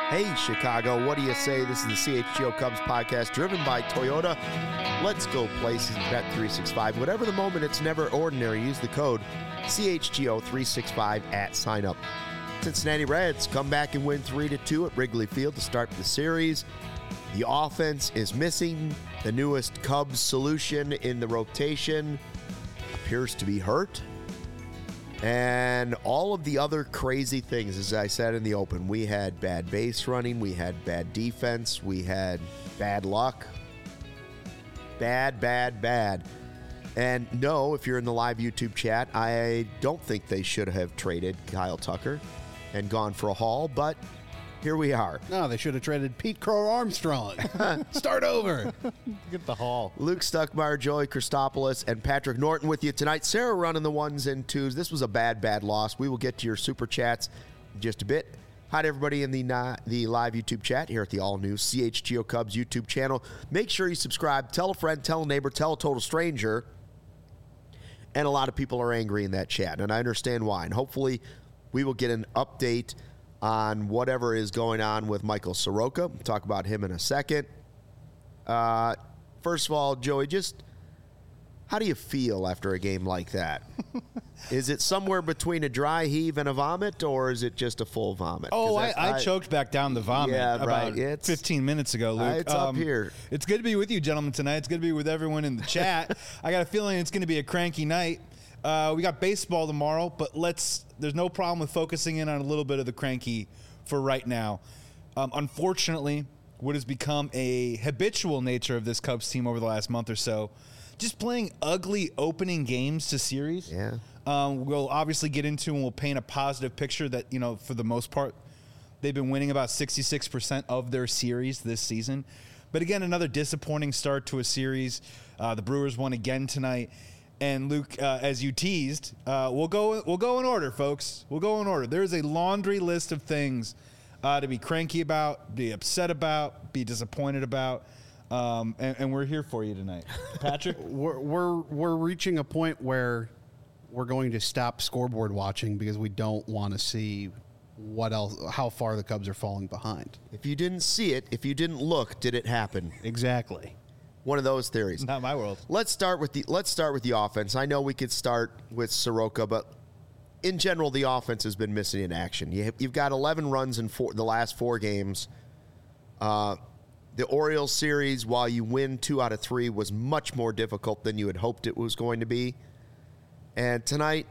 Hey, Chicago, what do you say? This is the CHGO Cubs podcast driven by Toyota. Let's go places, Bet365. Whatever the moment, it's never ordinary. Use the code CHGO365 at sign up. Cincinnati Reds come back and win 3-2 at Wrigley Field to start the series. The offense is missing. The newest Cubs solution in the rotation appears to be hurt. And all of the other crazy things, as I said in the open, we had bad base running, we had bad defense, we had bad luck. Bad. And no, if you're in the live YouTube chat, I don't think they should have traded Kyle Tucker and gone for a haul, but here we are. No, they should have traded Pete Crow Armstrong. Start over. Get the haul. Luke Stuckmeyer, Joey Christopoulos, and Patrick Norton with you tonight. Sarah running the ones and twos. This was a bad loss. We will get to your super chats in just a bit. Hi to everybody in the live YouTube chat here at the all-new CHGO Cubs YouTube channel. Make sure you subscribe. Tell a friend, tell a neighbor, tell a total stranger. And a lot of people are angry in that chat, and I understand why. And hopefully we will get an update on whatever is going on with Michael Soroka. We'll talk about him in a second. First of all, Joey, just how do you feel after a game like that? Is it somewhere between a dry heave and a vomit, or is it just a full vomit? Oh, I choked back down the vomit about 15 minutes ago, Luke. It's up here. It's good to be with you, gentlemen, tonight. It's good to be with everyone in the chat. I got a feeling it's going to be a cranky night. We got baseball tomorrow, but there's no problem with focusing in on a little bit of the cranky for right now. Unfortunately, what has become a habitual nature of this Cubs team over the last month or so, just playing ugly opening games to series. Yeah. We'll obviously get into and we'll paint a positive picture that, for the most part, they've been winning about 66% of their series this season. But again, another disappointing start to a series. The Brewers won again tonight. And Luke, as you teased, we'll go in order, folks. We'll go in order. There's a laundry list of things to be cranky about, be upset about, be disappointed about, and we're here for you tonight. Patrick, we're reaching a point where we're going to stop scoreboard watching because we don't want to see how far the Cubs are falling behind. If you didn't see it, if you didn't look, did it happen? Exactly. One of those theories. Not my world. Let's start with the offense. I know we could start with Soroka, but in general, the offense has been missing in action. You've got 11 runs in the last 4 games. The Orioles series, while you win 2 out of 3, was much more difficult than you had hoped it was going to be. And tonight,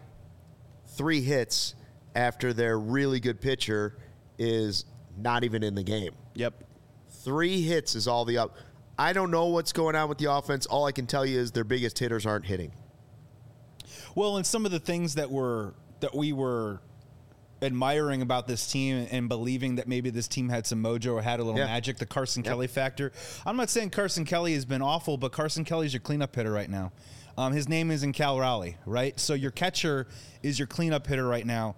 3 hits after their really good pitcher is not even in the game. Yep. 3 hits is all the up. I don't know what's going on with the offense. All I can tell you is their biggest hitters aren't hitting. Well, and some of the things that we were admiring about this team and believing that maybe this team had some mojo or had a little magic, the Carson Kelly factor. I'm not saying Carson Kelly has been awful, but Carson Kelly's your cleanup hitter right now. His name is in Cal Raleigh, right? So your catcher is your cleanup hitter right now.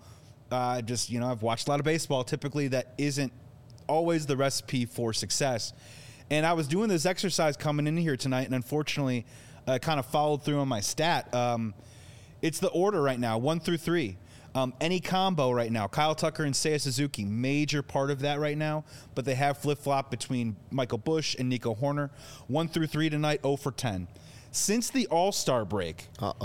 I've watched a lot of baseball. Typically, that isn't always the recipe for success. And I was doing this exercise coming in here tonight, and unfortunately, kind of followed through on my stat. It's the order right now, 1 through 3. Any combo right now, Kyle Tucker and Seiya Suzuki, major part of that right now, but they have flip-flop between Michael Busch and Nico Horner. 1 through 3 tonight, 0 for 10. Since the All-Star break,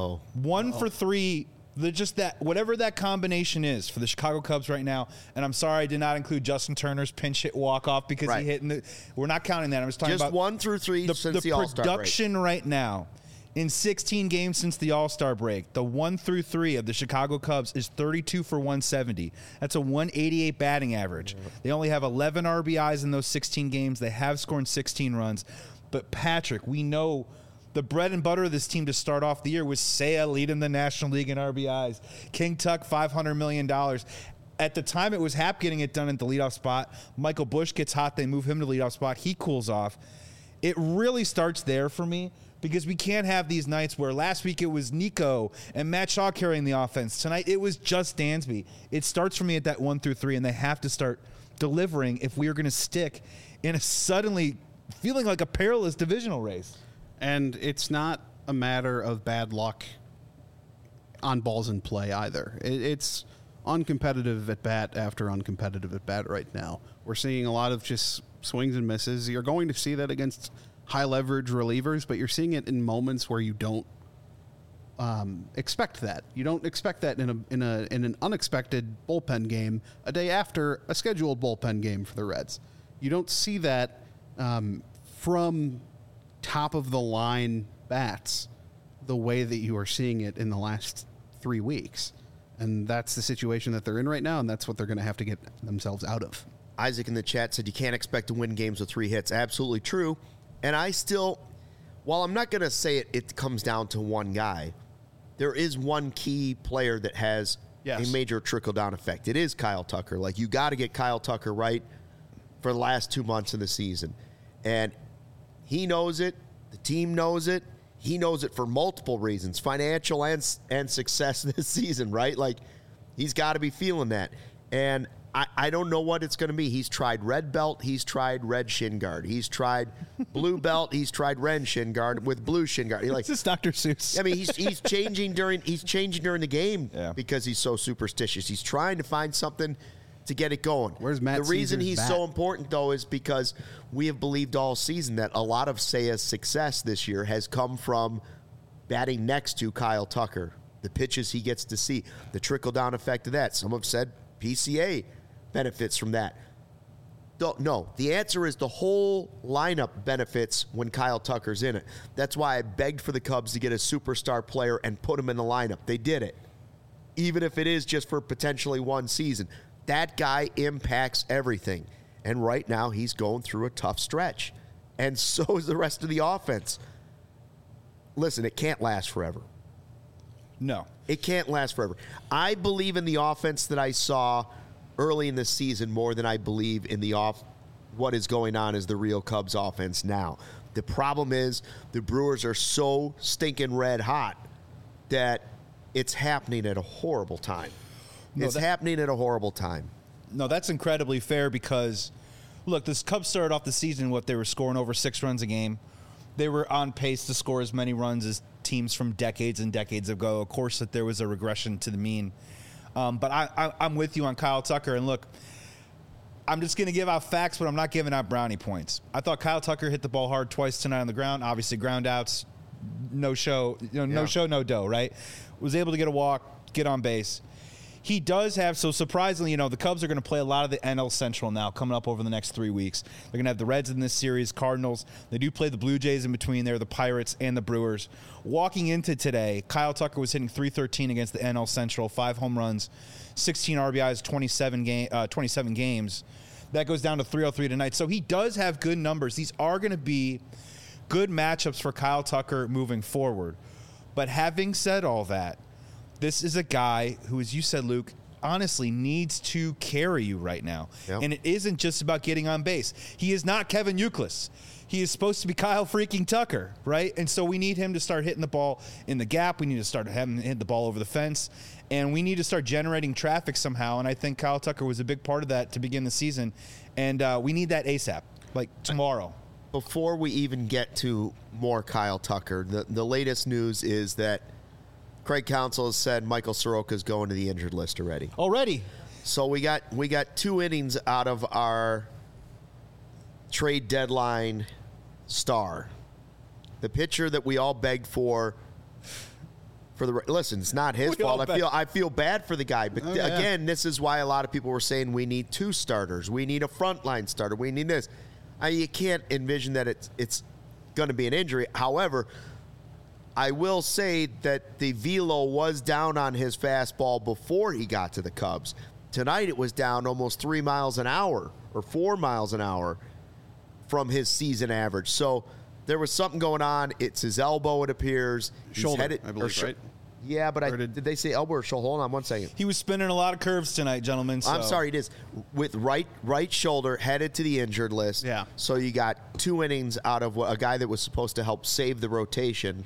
1 for 3. Just that, whatever that combination is for the Chicago Cubs right now, and I'm sorry I did not include Justin Turner's pinch hit walk-off because he hit we're not counting that. I was talking about 1 through 3 since the All-Star break. The production right now in 16 games since the All-Star break, the 1 through 3 of the Chicago Cubs is 32 for 170. That's a 188 batting average. They only have 11 RBIs in those 16 games. They have scored 16 runs. But Patrick, we know the bread and butter of this team to start off the year was Seiya leading the National League in RBIs. King Tuck, $500 million. At the time, it was Happ getting it done at the leadoff spot. Michael Busch gets hot. They move him to the leadoff spot. He cools off. It really starts there for me because we can't have these nights where last week it was Nico and Matt Shaw carrying the offense. Tonight, it was just Dansby. It starts for me at that 1 through 3, and they have to start delivering if we are going to stick in a suddenly feeling like a perilous divisional race. And it's not a matter of bad luck on balls in play either. It's uncompetitive at bat after uncompetitive at bat right now. We're seeing a lot of just swings and misses. You're going to see that against high leverage relievers, but you're seeing it in moments where you don't expect that. You don't expect that in an unexpected bullpen game a day after a scheduled bullpen game for the Reds. You don't see that from top of the line bats the way that you are seeing it in the last 3 weeks. And that's the situation that they're in right now, and that's what they're going to have to get themselves out of. Isaac in the chat said you can't expect to win games with 3 hits. Absolutely true. And I still, while I'm not going to say it comes down to one guy, there is one key player that has a major trickle-down effect. It is Kyle Tucker. Like, you got to get Kyle Tucker right for the last 2 months of the season. And he knows it. The team knows it. He knows it for multiple reasons, financial and success this season, right? Like, he's got to be feeling that. And I don't know what it's going to be. He's tried red belt. He's tried red shin guard. He's tried blue belt. He's tried red shin guard with blue shin guard. It's just Dr. Seuss. I mean, he's changing during the game because he's so superstitious. He's trying to find something to get it going. Where's Matt The reason Caesar's he's bat? so important, though, is because we have believed all season that a lot of Seiya's success this year has come from batting next to Kyle Tucker, the pitches he gets to see, the trickle-down effect of that. Some have said PCA benefits from that. No, the answer is the whole lineup benefits when Kyle Tucker's in it. That's why I begged for the Cubs to get a superstar player and put him in the lineup. They did it, even if it is just for potentially one season. That guy impacts everything. And right now, he's going through a tough stretch. And so is the rest of the offense. Listen, it can't last forever. No. It can't last forever. I believe in the offense that I saw early in the season more than I believe in what is going on as the real Cubs offense now. The problem is the Brewers are so stinking red hot that it's happening at a horrible time. It's happening at a horrible time. No, that's incredibly fair because, look, this Cubs started off the season, they were scoring over 6 runs a game. They were on pace to score as many runs as teams from decades and decades ago. Of course, that there was a regression to the mean. But I'm with you on Kyle Tucker. And look, I'm just going to give out facts, but I'm not giving out brownie points. I thought Kyle Tucker hit the ball hard twice tonight on the ground. Obviously, ground outs, no show, no show, no dough, right? Was able to get a walk, get on base. He does have, so surprisingly, the Cubs are going to play a lot of the NL Central now coming up over the next 3 weeks. They're going to have the Reds in this series, Cardinals. They do play the Blue Jays in between there, the Pirates and the Brewers. Walking into today, Kyle Tucker was hitting .313 against the NL Central, 5 home runs, 16 RBIs, 27 games. That goes down to .303 tonight. So he does have good numbers. These are going to be good matchups for Kyle Tucker moving forward. But having said all that, this is a guy who, as you said, Luke, honestly needs to carry you right now. Yep. And it isn't just about getting on base. He is not Kevin Youkilis. He is supposed to be Kyle freaking Tucker, right? And so we need him to start hitting the ball in the gap. We need to start having him hit the ball over the fence. And we need to start generating traffic somehow. And I think Kyle Tucker was a big part of that to begin the season. And we need that ASAP, like tomorrow. Before we even get to more Kyle Tucker, the latest news is that Craig Counsell has said Michael Soroka is going to the injured list already. So we got 2 innings out of our trade deadline star. The pitcher that we all begged for listen, it's not his fault. I feel bad for the guy, but again, this is why a lot of people were saying we need 2 starters. We need a frontline starter. We need this. You can't envision that it's going to be an injury. However, I will say that the velo was down on his fastball before he got to the Cubs. Tonight it was down almost 3 miles an hour or 4 miles an hour from his season average. So there was something going on. It's his elbow, it appears. Shoulder, I believe, right? Yeah, but did they say elbow or shoulder? Hold on 1 second. He was spinning a lot of curves tonight, gentlemen. So. I'm sorry, it is. With right shoulder headed to the injured list. Yeah. So you got 2 innings out of a guy that was supposed to help save the rotation.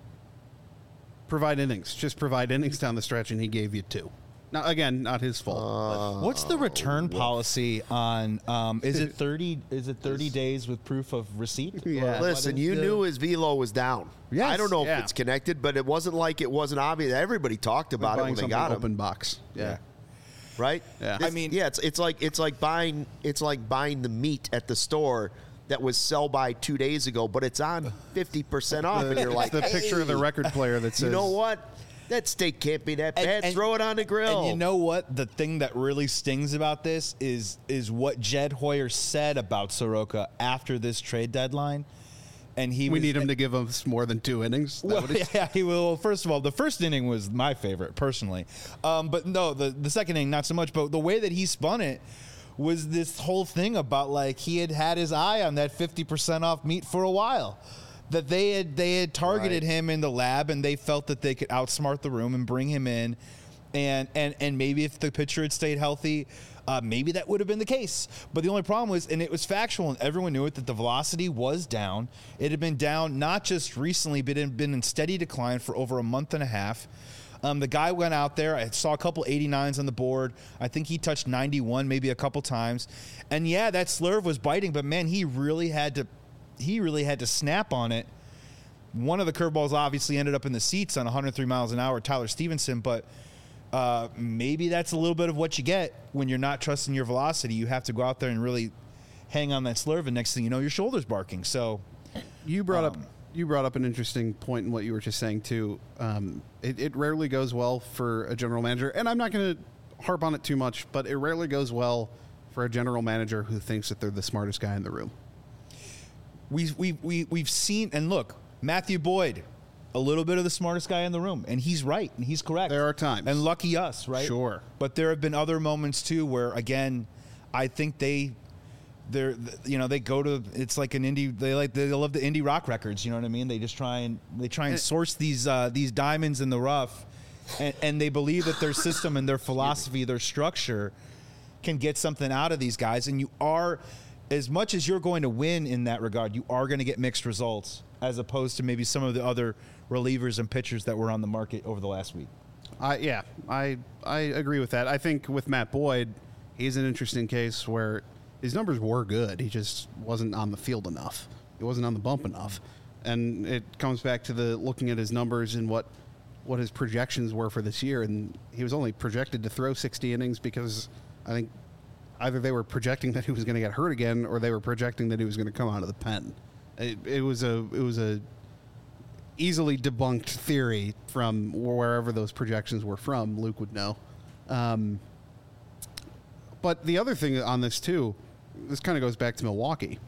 Provide innings. Just provide innings down the stretch, and he gave you 2. Now, again, not his fault. What's the return policy on? Is it 30? Is it 30 days with proof of receipt? Yeah. Listen, you knew his velo was down. Yes, I don't know if it's connected, but it wasn't like it wasn't obvious. Everybody talked about it when they got him. Open box. Yeah. right? Yeah. This- I mean- it's like buying the meat at the store that was sell by 2 days ago, but it's on 50% off, and you're like, the picture of the "Hey, record player that says, you know what? That steak can't be that bad. Throw it on the grill." And you know what? The thing that really stings about this is what Jed Hoyer said about Soroka after this trade deadline. And we need him to give us more than 2 innings. Is that Well, what he- yeah, he will. First of all, the first inning was my favorite personally, but no, the second inning not so much. But the way that he spun it was this whole thing about like he had his eye on that 50% off meat for a while. That they had targeted him in the lab, and they felt that they could outsmart the room and bring him in, and maybe if the pitcher had stayed healthy, maybe that would have been the case. But the only problem was, and it was factual, and everyone knew it, that the velocity was down. It had been down not just recently, but it had been in steady decline for over a month and a half. The guy went out there. I saw a couple 89s on the board. I think he touched 91 maybe a couple times. And yeah, that slurve was biting, but man, he really had to snap on it. One of the curveballs obviously ended up in the seats on 103 miles an hour, Tyler Stevenson, but maybe that's a little bit of what you get when you're not trusting your velocity. You have to go out there and really hang on that slurve, and next thing you know, your shoulder's barking. So You brought up an interesting point in what you were just saying too. It rarely goes well for a general manager, and I'm not going to harp on it too much, but it rarely goes well for a general manager who thinks that they're the smartest guy in the room. we've seen, and look, Matthew Boyd, a little bit of the smartest guy in the room, and he's right, and he's correct. There are times. And lucky us, right? Sure. But there have been other moments too where, again, I think they go to, it's like an indie, they love the indie rock records, you know what I mean? They just try and source these diamonds in the rough, and they believe that their system and their philosophy, their structure can get something out of these guys. And you are, as much as you're going to win in that regard, you are going to get mixed results as opposed to maybe some of the other relievers and pitchers that were on the market over the last week. I agree with that. I think with Matt Boyd, he's an interesting case where his numbers were good. He just wasn't on the field enough. He wasn't on the bump enough. And it comes back to the looking at his numbers and what his projections were for this year. And he was only projected to throw 60 innings because I think either they were projecting that he was going to get hurt again or they were projecting that he was going to come out of the pen. It was a easily debunked theory from wherever those projections were from. Luke would know. But the other thing on this too, this kind of goes back to Milwaukee.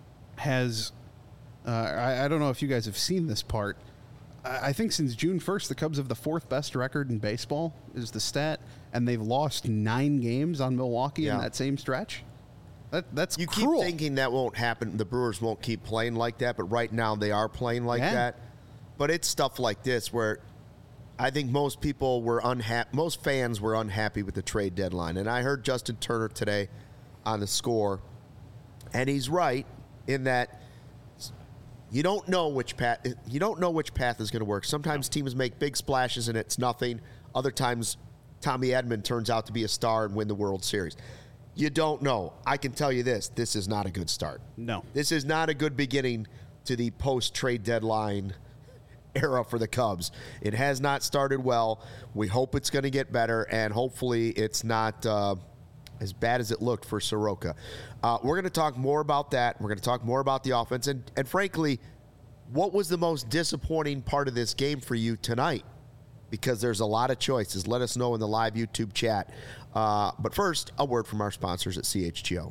I don't know if you guys have seen this part. I think since June 1st, the Cubs have the 4th best record in baseball is the stat, and they've lost 9 games on Milwaukee in that same stretch. That's You cruel. keep thinking that won't happen. The Brewers won't keep playing like that, but right now they are playing like that. But it's stuff like this where I think most people were unhappy. Most fans were unhappy with the trade deadline. And I heard Justin Turner today on The Score, and he's right in that you don't know which path. You don't know which path is going to work. Sometimes teams make big splashes and it's nothing. Other times, Tommy Edman turns out to be a star and win the World Series. You don't know. I can tell you this: this is not a good start. No, this is not a good beginning to the post-trade deadline era for the Cubs. It has not started well. We hope it's going to get better, and hopefully it's not as bad as it looked for Soroka. We're going to talk more about that. We're going to talk more about the offense. And frankly, what was the most disappointing part of this game for you tonight? Because there's a lot of choices. Let us know in the live YouTube chat. But first, a word from our sponsors at CHGO.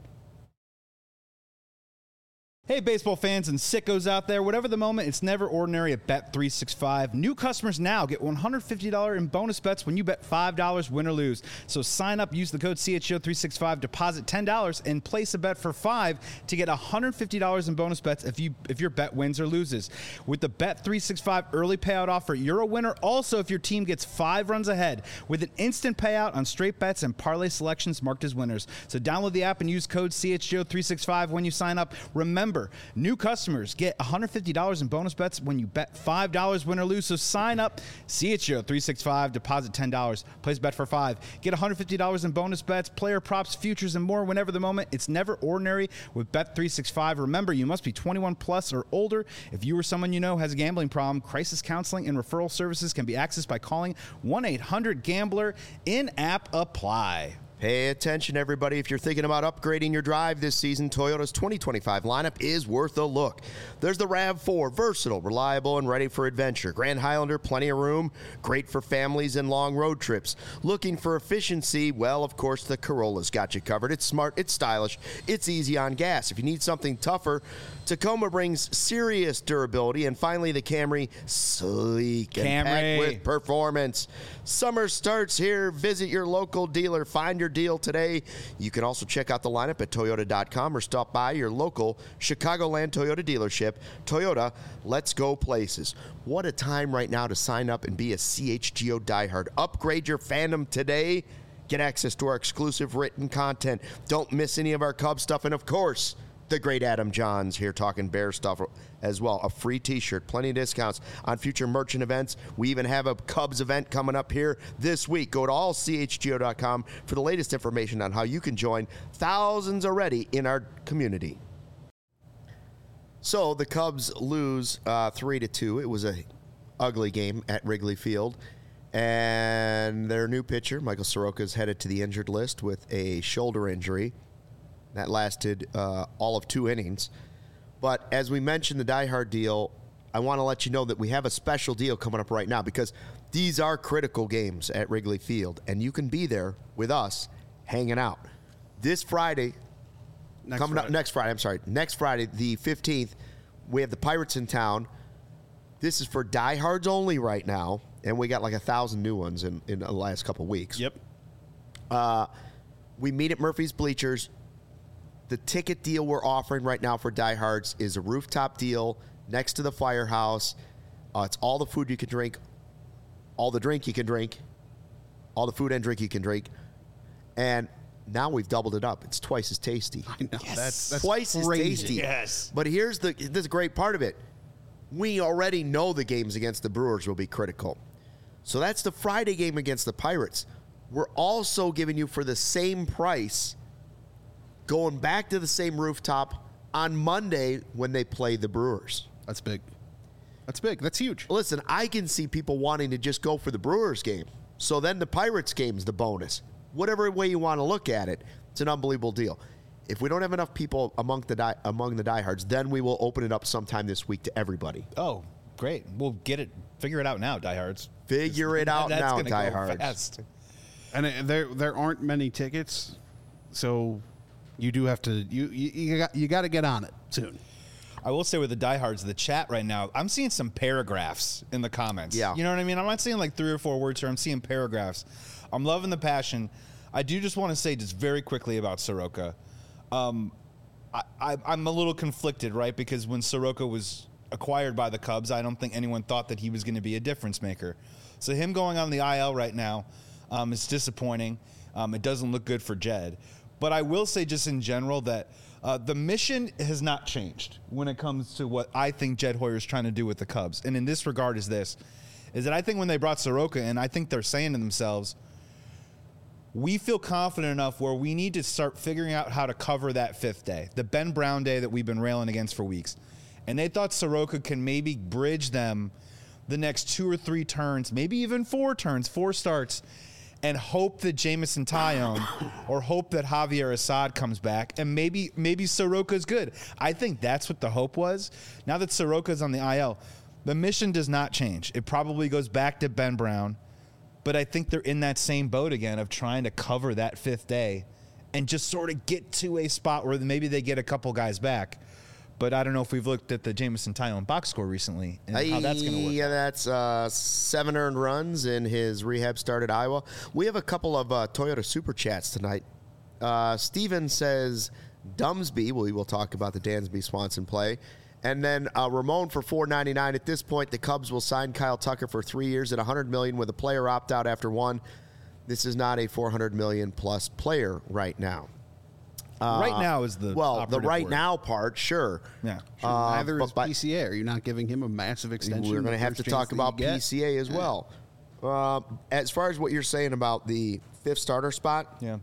Hey, baseball fans and sickos out there. Whatever the moment, it's never ordinary at Bet365. New customers now get $150 in bonus bets when you bet $5, win or lose. So sign up, use the code CHGO365, deposit $10, and place a bet for $5 to get $150 in bonus bets if your bet wins or loses. With the Bet365 early payout offer, you're a winner also if your team gets 5 runs ahead with an instant payout on straight bets and parlay selections marked as winners. So download the app and use code CHGO365 when you sign up. Remember, new customers get $150 in bonus bets when you bet $5, win or lose. So sign up, CHGO365, deposit $10, place a bet for $5. Get $150 in bonus bets, player props, futures, and more whenever the moment. It's never ordinary with Bet365. Remember, you must be 21 plus or older. If you or someone you know has a gambling problem, crisis counseling and referral services can be accessed by calling 1-800-GAMBLER. In-app apply. Pay attention, everybody. If you're thinking about upgrading your drive this season, Toyota's 2025 lineup is worth a look. There's the RAV4, versatile, reliable, and ready for adventure. Grand Highlander, plenty of room, great for families and long road trips. Looking for efficiency? Well, of course, the Corolla's got you covered. It's smart, it's stylish, it's easy on gas. If you need something tougher, Tacoma brings serious durability. And finally, the Camry, sleek and packed with performance. Summer starts here. Visit your local dealer. Find your deal today. You can also check out the lineup at Toyota.com or stop by your local Chicagoland Toyota dealership. Toyota, let's go places. What a time right now to sign up and be a CHGO diehard. Upgrade your fandom today. Get access to our exclusive written content. Don't miss any of our Cubs stuff. And, of course, the great Adam Johns here talking Bear stuff as well. A free T-shirt, plenty of discounts on future merchant events. We even have a Cubs event coming up here this week. Go to allchgo.com for the latest information on how you can join thousands already in our community. So the Cubs lose 3-2. It was a ugly game at Wrigley Field. And their new pitcher, Michael Soroka, is headed to the injured list with a shoulder injury. That lasted all of 2 innings. But as we mentioned, the Die Hard deal, I want to let you know that we have a special deal coming up right now because these are critical games at Wrigley Field, and you can be there with us hanging out. This Friday, next Friday, the 15th, we have the Pirates in town. This is for diehards only right now, and we got like 1,000 new ones in the last couple weeks. Yep. We meet at Murphy's Bleachers. The ticket deal we're offering right now for diehards is a rooftop deal next to the firehouse. It's all the food you can drink, all the drink you can drink, all the food and drink you can drink. And now we've doubled it up. It's twice as tasty. I know. Yes. That's twice crazy. as tasty. Yes. But here's the great part of it. We already know the games against the Brewers will be critical. So that's the Friday game against the Pirates. We're also giving you for the same price going back to the same rooftop on Monday when they play the Brewers. That's big. That's big. That's huge. Listen, I can see people wanting to just go for the Brewers game. So then the Pirates game's the bonus. Whatever way you want to look at it, it's an unbelievable deal. If we don't have enough people among the diehards, then we will open it up sometime this week to everybody. Oh, great. We'll figure it out now, diehards. Figure it out now, gonna diehards. go fast. And there aren't many tickets, so you do have to you got to get on it soon. I will say with the diehards, the chat right now, I'm seeing some paragraphs in the comments. Yeah. You know what I mean? I'm not seeing like 3 or 4 words here. I'm seeing paragraphs. I'm loving the passion. I do just want to say just very quickly about Soroka. I'm a little conflicted, right? Because when Soroka was acquired by the Cubs, I don't think anyone thought that he was going to be a difference maker. So him going on the IL right now is disappointing. It doesn't look good for Jed. But I will say just in general that the mission has not changed when it comes to what I think Jed Hoyer is trying to do with the Cubs. And in this regard is that I think when they brought Soroka in, I think they're saying to themselves, we feel confident enough where we need to start figuring out how to cover that 5th day, the Ben Brown day that we've been railing against for weeks. And they thought Soroka can maybe bridge them the next 2 or 3 turns, maybe even 4 turns, 4 starts, and hope that Jameson Taillon or hope that Javier Assad comes back, and maybe Soroka's good. I think that's what the hope was. Now that Soroka's on the IL, the mission does not change. It probably goes back to Ben Brown, but I think they're in that same boat again of trying to cover that 5th day and just sort of get to a spot where maybe they get a couple guys back. But I don't know if we've looked at the Jameson Taillon box score recently and how that's going to work. Yeah, that's 7 earned runs in his rehab start at Iowa. We have a couple of Toyota Super Chats tonight. Steven says, Dumsby, we will talk about the Dansby Swanson play. And then Ramon for $4.99. At this point, the Cubs will sign Kyle Tucker for 3 years at $100 million with a player opt out after 1. This is not a $400 million plus player right now. Right now is the the right word. Now part, sure. Yeah. Sure, neither is PCA. Are you not giving him a massive extension? We're going to have to talk about PCA as well. As far as what you're saying about the 5th starter spot, yeah.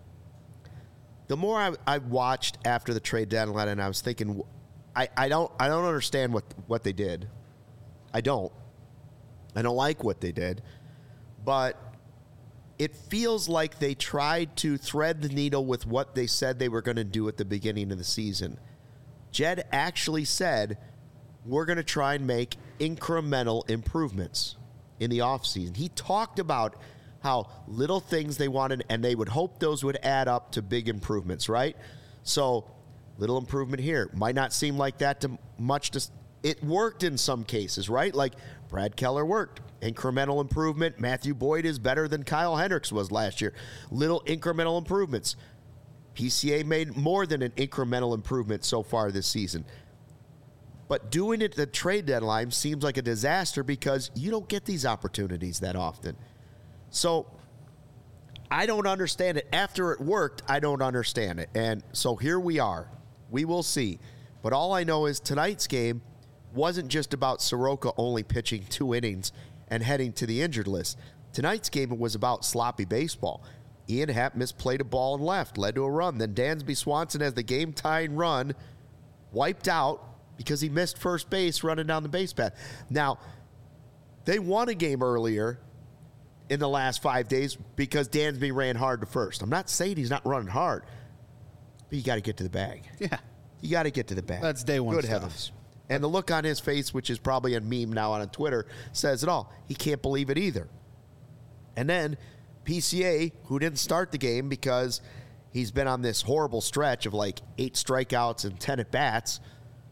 The more I watched after the trade deadline, and I was thinking, I don't understand what they did. I don't like what they did, but it feels like they tried to thread the needle with what they said they were going to do at the beginning of the season. Jed actually said, we're going to try and make incremental improvements in the offseason. He talked about how little things they wanted, and they would hope those would add up to big improvements, right? So, little improvement here. Might not seem like that to much. It worked in some cases, right? Like Brad Keller worked. Incremental improvement. Matthew Boyd is better than Kyle Hendricks was last year. Little incremental improvements. PCA made more than an incremental improvement so far this season. But doing it at the trade deadline seems like a disaster because you don't get these opportunities that often. So I don't understand it. After it worked, I don't understand it. And so here we are. We will see. But all I know is tonight's game wasn't just about Soroka only pitching 2 innings and heading to the injured list. Tonight's game was about sloppy baseball. Ian Happ misplayed a ball and left, led to a run. Then Dansby Swanson has the game-tying run wiped out because he missed first base running down the base path. Now, they won a game earlier in the last 5 days because Dansby ran hard to first. I'm not saying he's not running hard, but you got to get to the bag. Yeah. You got to get to the bag. That's day one Good stuff. heavens. And the look on his face, which is probably a meme now on Twitter, says it all. He can't believe it either. And then PCA, who didn't start the game because he's been on this horrible stretch of like 8 strikeouts and 10 at-bats,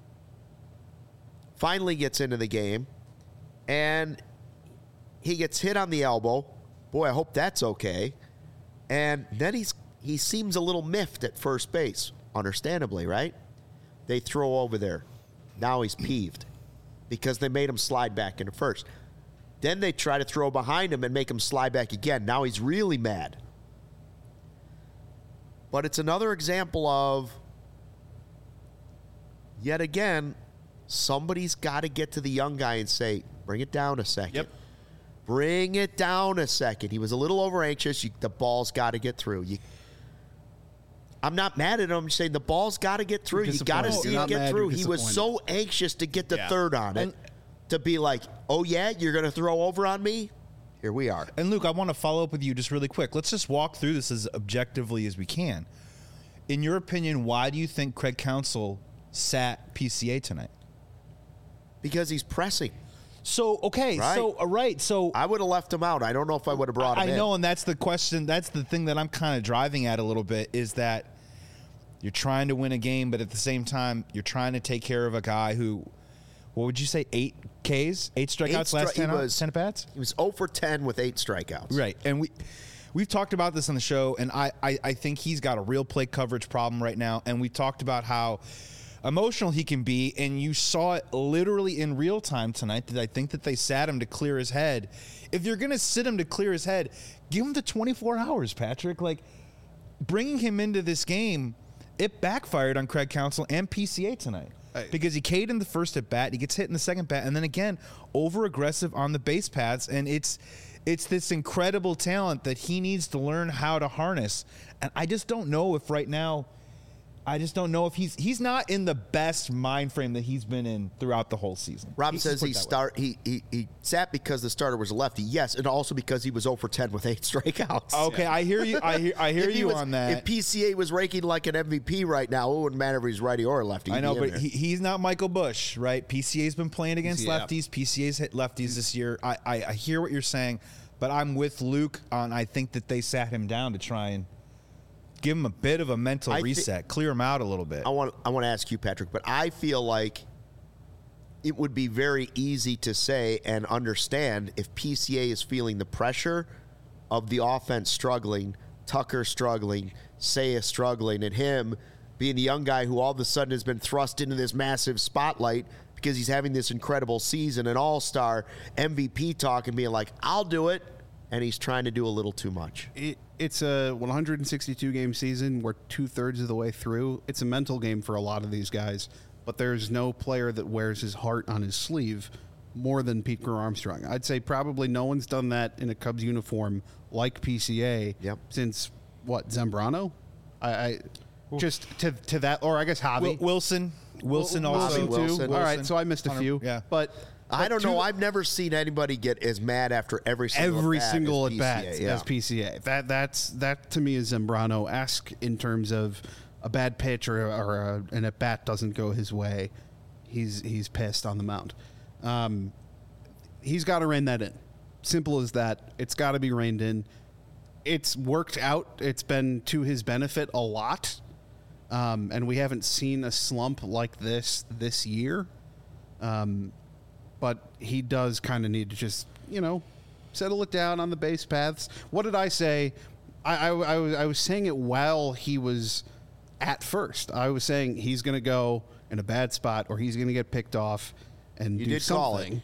finally gets into the game, and he gets hit on the elbow. Boy, I hope that's okay. And then he seems a little miffed at first base, understandably, right? They throw over there. Now he's peeved because they made him slide back into first. Then they try to throw behind him and make him slide back again. Now he's really mad. But it's another example of, yet again, somebody's got to get to the young guy and say, bring it down a second. Yep. Bring it down a second. He was a little over-anxious. The ball's got to get through. I'm not mad at him. I'm saying the ball's got to get through. You got to see it get through. He was so anxious to get the third on it, to be like, oh, yeah, you're going to throw over on me? Here we are. And, Luke, I want to follow up with you just really quick. Let's just walk through this as objectively as we can. In your opinion, why do you think Craig Counsell sat PCA tonight? Because he's pressing. So, okay, right. So I would have left him out. I don't know if I would have brought him in. I know, and that's the question. That's the thing that I'm kind of driving at a little bit, is that you're trying to win a game, but at the same time, you're trying to take care of a guy who, what would you say, 8 Ks? 8 strikeouts last 10 at-bats? He was 0 for 10 with 8 strikeouts. Right, and we've talked about this on the show, and I think he's got a real plate coverage problem right now, and we talked about how emotional he can be, and you saw it literally in real time tonight. That I think that they sat him to clear his head. If you're going to sit him to clear his head, give him the 24 hours, Patrick. Like, bringing him into this game, it backfired on Craig Counsell and PCA tonight. Because he K'd in the first at bat, he gets hit in the second bat, and then again, over aggressive on the base paths, and it's this incredible talent that he needs to learn how to harness. And I just don't know if right now, he's not in the best mind frame that he's been in throughout the whole season. Rob says he sat because the starter was a lefty. Yes, and also because he was 0 for 10 with 8 strikeouts. Okay, yeah. I hear you. I hear you on that. If PCA was ranking like an MVP right now, it wouldn't matter if he's righty or lefty. I know, but he's not Michael Busch, right? PCA's been playing against lefties. PCA's hit lefties this year. I hear what you're saying, but I'm with Luke on. I think that they sat him down to try and give him a bit of a mental reset, clear him out a little bit. I want to ask you, Patrick, but I feel like it would be very easy to say and understand if PCA is feeling the pressure of the offense struggling, Tucker struggling, Seiya struggling, and him being the young guy who all of a sudden has been thrust into this massive spotlight because he's having this incredible season, an all-star MVP talk, and being like, I'll do it, and he's trying to do a little too much. It's a 162-game season. We're 2/3 of the way through. It's a mental game for a lot of these guys, but there's no player that wears his heart on his sleeve more than Pete Crow Armstrong. I'd say probably no one's done that in a Cubs uniform like PCA since, Zambrano? Just to that, or I guess Javi. Wilson also. Wilson too. All right, so I missed a few. Yeah. But I don't know. I've never seen anybody get as mad after every single at bat as PCA. That to me is Zambrano-esque in terms of a bad pitch or an at bat doesn't go his way. He's pissed on the mound. He's got to rein that in. Simple as that. It's got to be reined in. It's worked out. It's been to his benefit a lot. And we haven't seen a slump like this year. But he does kind of need to just, settle it down on the base paths. What did I say? I was saying it while he was at first. I was saying he's going to go in a bad spot or he's going to get picked off and do something.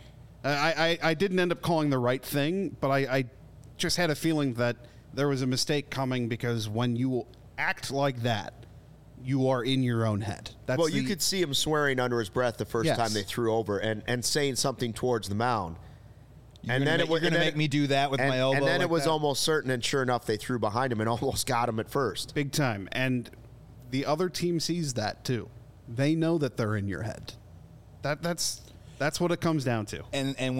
I didn't end up calling the right thing, but I just had a feeling that there was a mistake coming because when you act like that, you are in your own head. You could see him swearing under his breath the first time they threw over and saying something towards the mound. You're going to make me do that with my elbow. And then it was almost certain, and sure enough, they threw behind him and almost got him at first. Big time. And the other team sees that too. They know that they're in your head. That's what it comes down to. And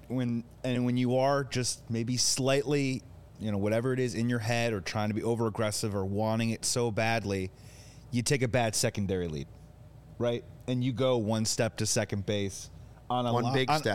when you are just maybe slightly, whatever it is in your head or trying to be over aggressive or wanting it so badly, you take a bad secondary lead, right? And you go one step to second base on one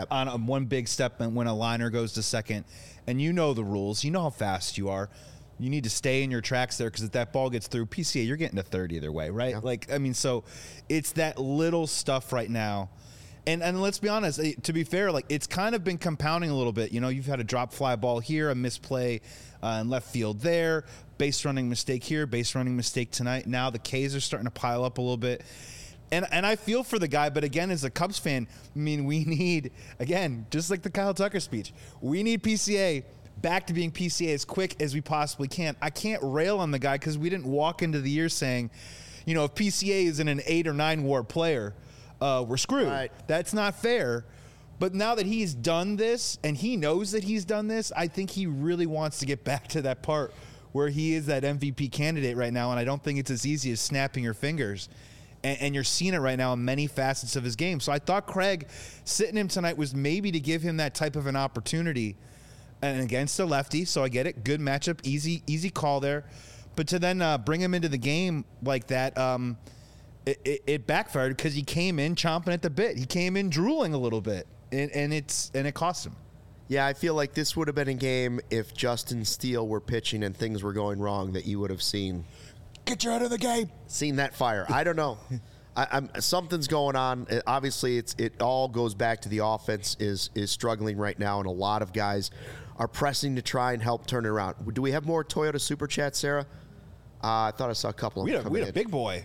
big step, and when a liner goes to second, and you know the rules, you know how fast you are. You need to stay in your tracks there because if that ball gets through PCA, you're getting to third either way, right? Yeah. So it's that little stuff right now. And let's be honest, to be fair, it's kind of been compounding a little bit. You've had a drop fly ball here, a misplay in left field there, base running mistake here, base running mistake tonight. Now the K's are starting to pile up a little bit. And I feel for the guy, but again, as a Cubs fan, we need, again, just like the Kyle Tucker speech, we need PCA back to being PCA as quick as we possibly can. I can't rail on the guy because we didn't walk into the year saying, if PCA isn't an 8 or 9 WAR player, we're screwed. Right. That's not fair. But now that he's done this and he knows that he's done this, I think he really wants to get back to that part where he is that MVP candidate right now. And I don't think it's as easy as snapping your fingers. And you're seeing it right now in many facets of his game. So I thought Craig sitting him tonight was maybe to give him that type of an opportunity and against a lefty. So I get it. Good matchup. Easy call there. But to then bring him into the game like that, it backfired because he came in chomping at the bit. He came in drooling a little bit, and it cost him. Yeah, I feel like this would have been a game if Justin Steele were pitching and things were going wrong that you would have seen. Get you out of the game. Seen that fire. I don't know. Something's going on. Obviously, it all goes back to the offense is struggling right now, and a lot of guys are pressing to try and help turn it around. Do we have more Toyota Super Chat, Sarah? I thought I saw a couple of them. We had a big boy.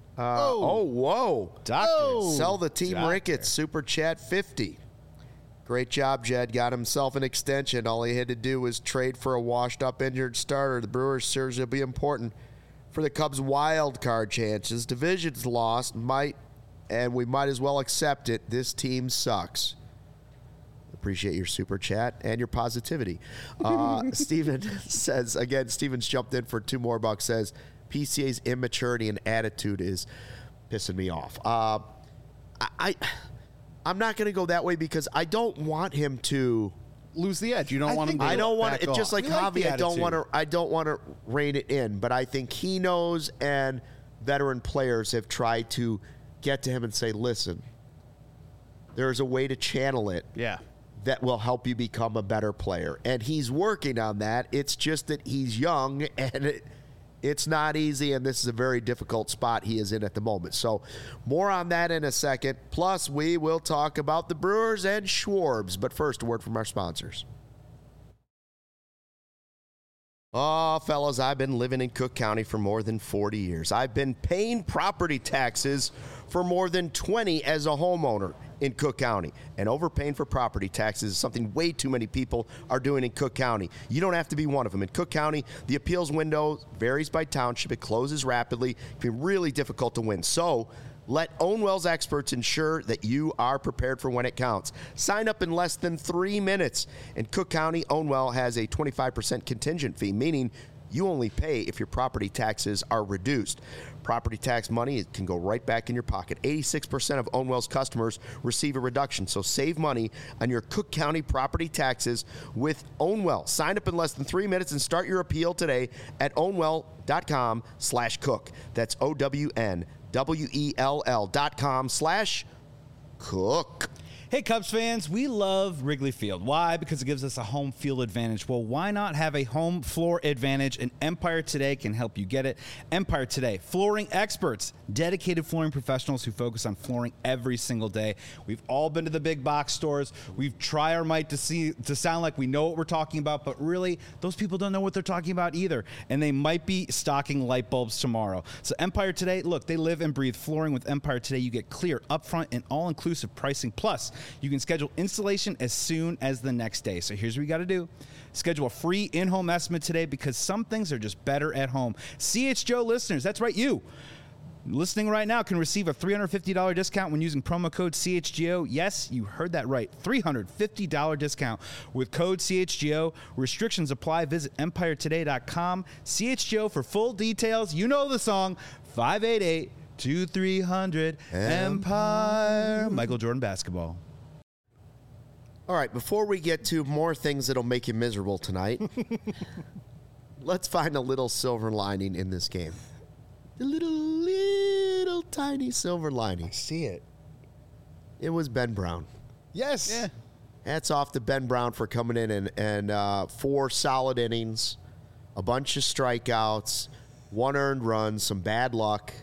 Whoa. Doctor. Sell the team Ricketts, Super Chat 50. Great job, Jed. Got himself an extension. All he had to do was trade for a washed-up injured starter. The Brewers series will be important for the Cubs' wild card chances. Division's lost, and we might as well accept it. This team sucks. Appreciate your Super Chat and your positivity. Steven says, again, Steven's jumped in for $2 more, says, PCA's immaturity and attitude is pissing me off. I'm not going to go that way because I don't want him to lose the edge. You don't want him to. I don't want it. Off. Just like Javi, I don't want to rein it in. But I think he knows, and veteran players have tried to get to him and say, "Listen, there's a way to channel it. Yeah." That will help you become a better player. And he's working on that. It's just that he's young, and it's not easy, and this is a very difficult spot he is in at the moment. So more on that in a second. Plus, we will talk about the Brewers and Schwarbs. But first, a word from our sponsors. Oh, fellas, I've been living in Cook County for more than 40 years. I've been paying property taxes for more than 20 as a homeowner in Cook County. And overpaying for property taxes is something way too many people are doing in Cook County. You don't have to be one of them. In Cook County, the appeals window varies by township. It closes rapidly. It can be really difficult to win. So let Ownwell's experts ensure that you are prepared for when it counts. Sign up in less than 3 minutes. In Cook County, Ownwell has a 25% contingent fee, meaning You only pay if your property taxes are reduced. Property tax money, it can go right back in your pocket. 86% of Ownwell's customers receive a reduction, so save money on your Cook County property taxes with Ownwell. Sign up in less than 3 minutes and start your appeal today at ownwell.com/cook. That's OWNWELL.com/cook. Hey, Cubs fans, we love Wrigley Field. Why? Because it gives us a home field advantage. Well, why not have a home floor advantage? And Empire Today can help you get it. Empire Today, flooring experts, dedicated flooring professionals who focus on flooring every single day. We've all been to the big box stores. We've tried our might to sound like we know what we're talking about, but really, those people don't know what they're talking about either. And they might be stocking light bulbs tomorrow. So Empire Today, look, they live and breathe flooring. With Empire Today, you get clear, upfront, and all-inclusive pricing. Plus, you can schedule installation as soon as the next day. So here's what you got to do. Schedule a free in-home estimate today because some things are just better at home. CHGO listeners, that's right, you listening right now can receive a $350 discount when using promo code CHGO. Yes, you heard that right. $350 discount with code CHGO. Restrictions apply. Visit EmpireToday.com. CHGO for full details. You know the song. 588-2300 Empire. Michael Jordan basketball. All right, before we get to more things that'll make you miserable tonight, let's find a little silver lining in this game. The little tiny silver lining. I see it. It was Ben Brown. Yes. Yeah. Hats off to Ben Brown for coming in and 4 solid innings, a bunch of strikeouts, 1 earned run, some bad luck.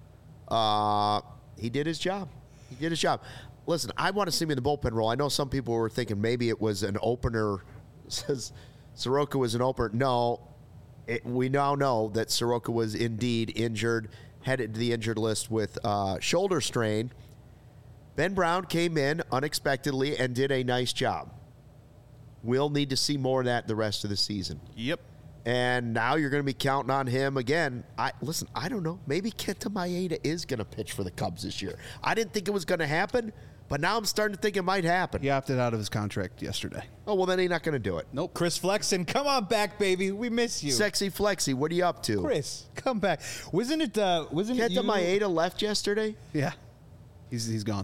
He did his job. Listen, I want to see him in the bullpen role. I know some people were thinking maybe it was an opener. Says Soroka was an opener. No, we now know that Soroka was indeed injured, headed to the injured list with shoulder strain. Ben Brown came in unexpectedly and did a nice job. We'll need to see more of that the rest of the season. Yep. And now you're going to be counting on him again. I don't know. Maybe Kenta Maeda is going to pitch for the Cubs this year. I didn't think it was going to happen, but now I'm starting to think it might happen. He opted out of his contract yesterday. Oh, well, then he's not going to do it. Nope. Chris Flexen, come on back, baby. We miss you. Sexy Flexi, what are you up to? Chris, come back. Wasn't it you? Kenta Maeda left yesterday? Yeah. He's gone.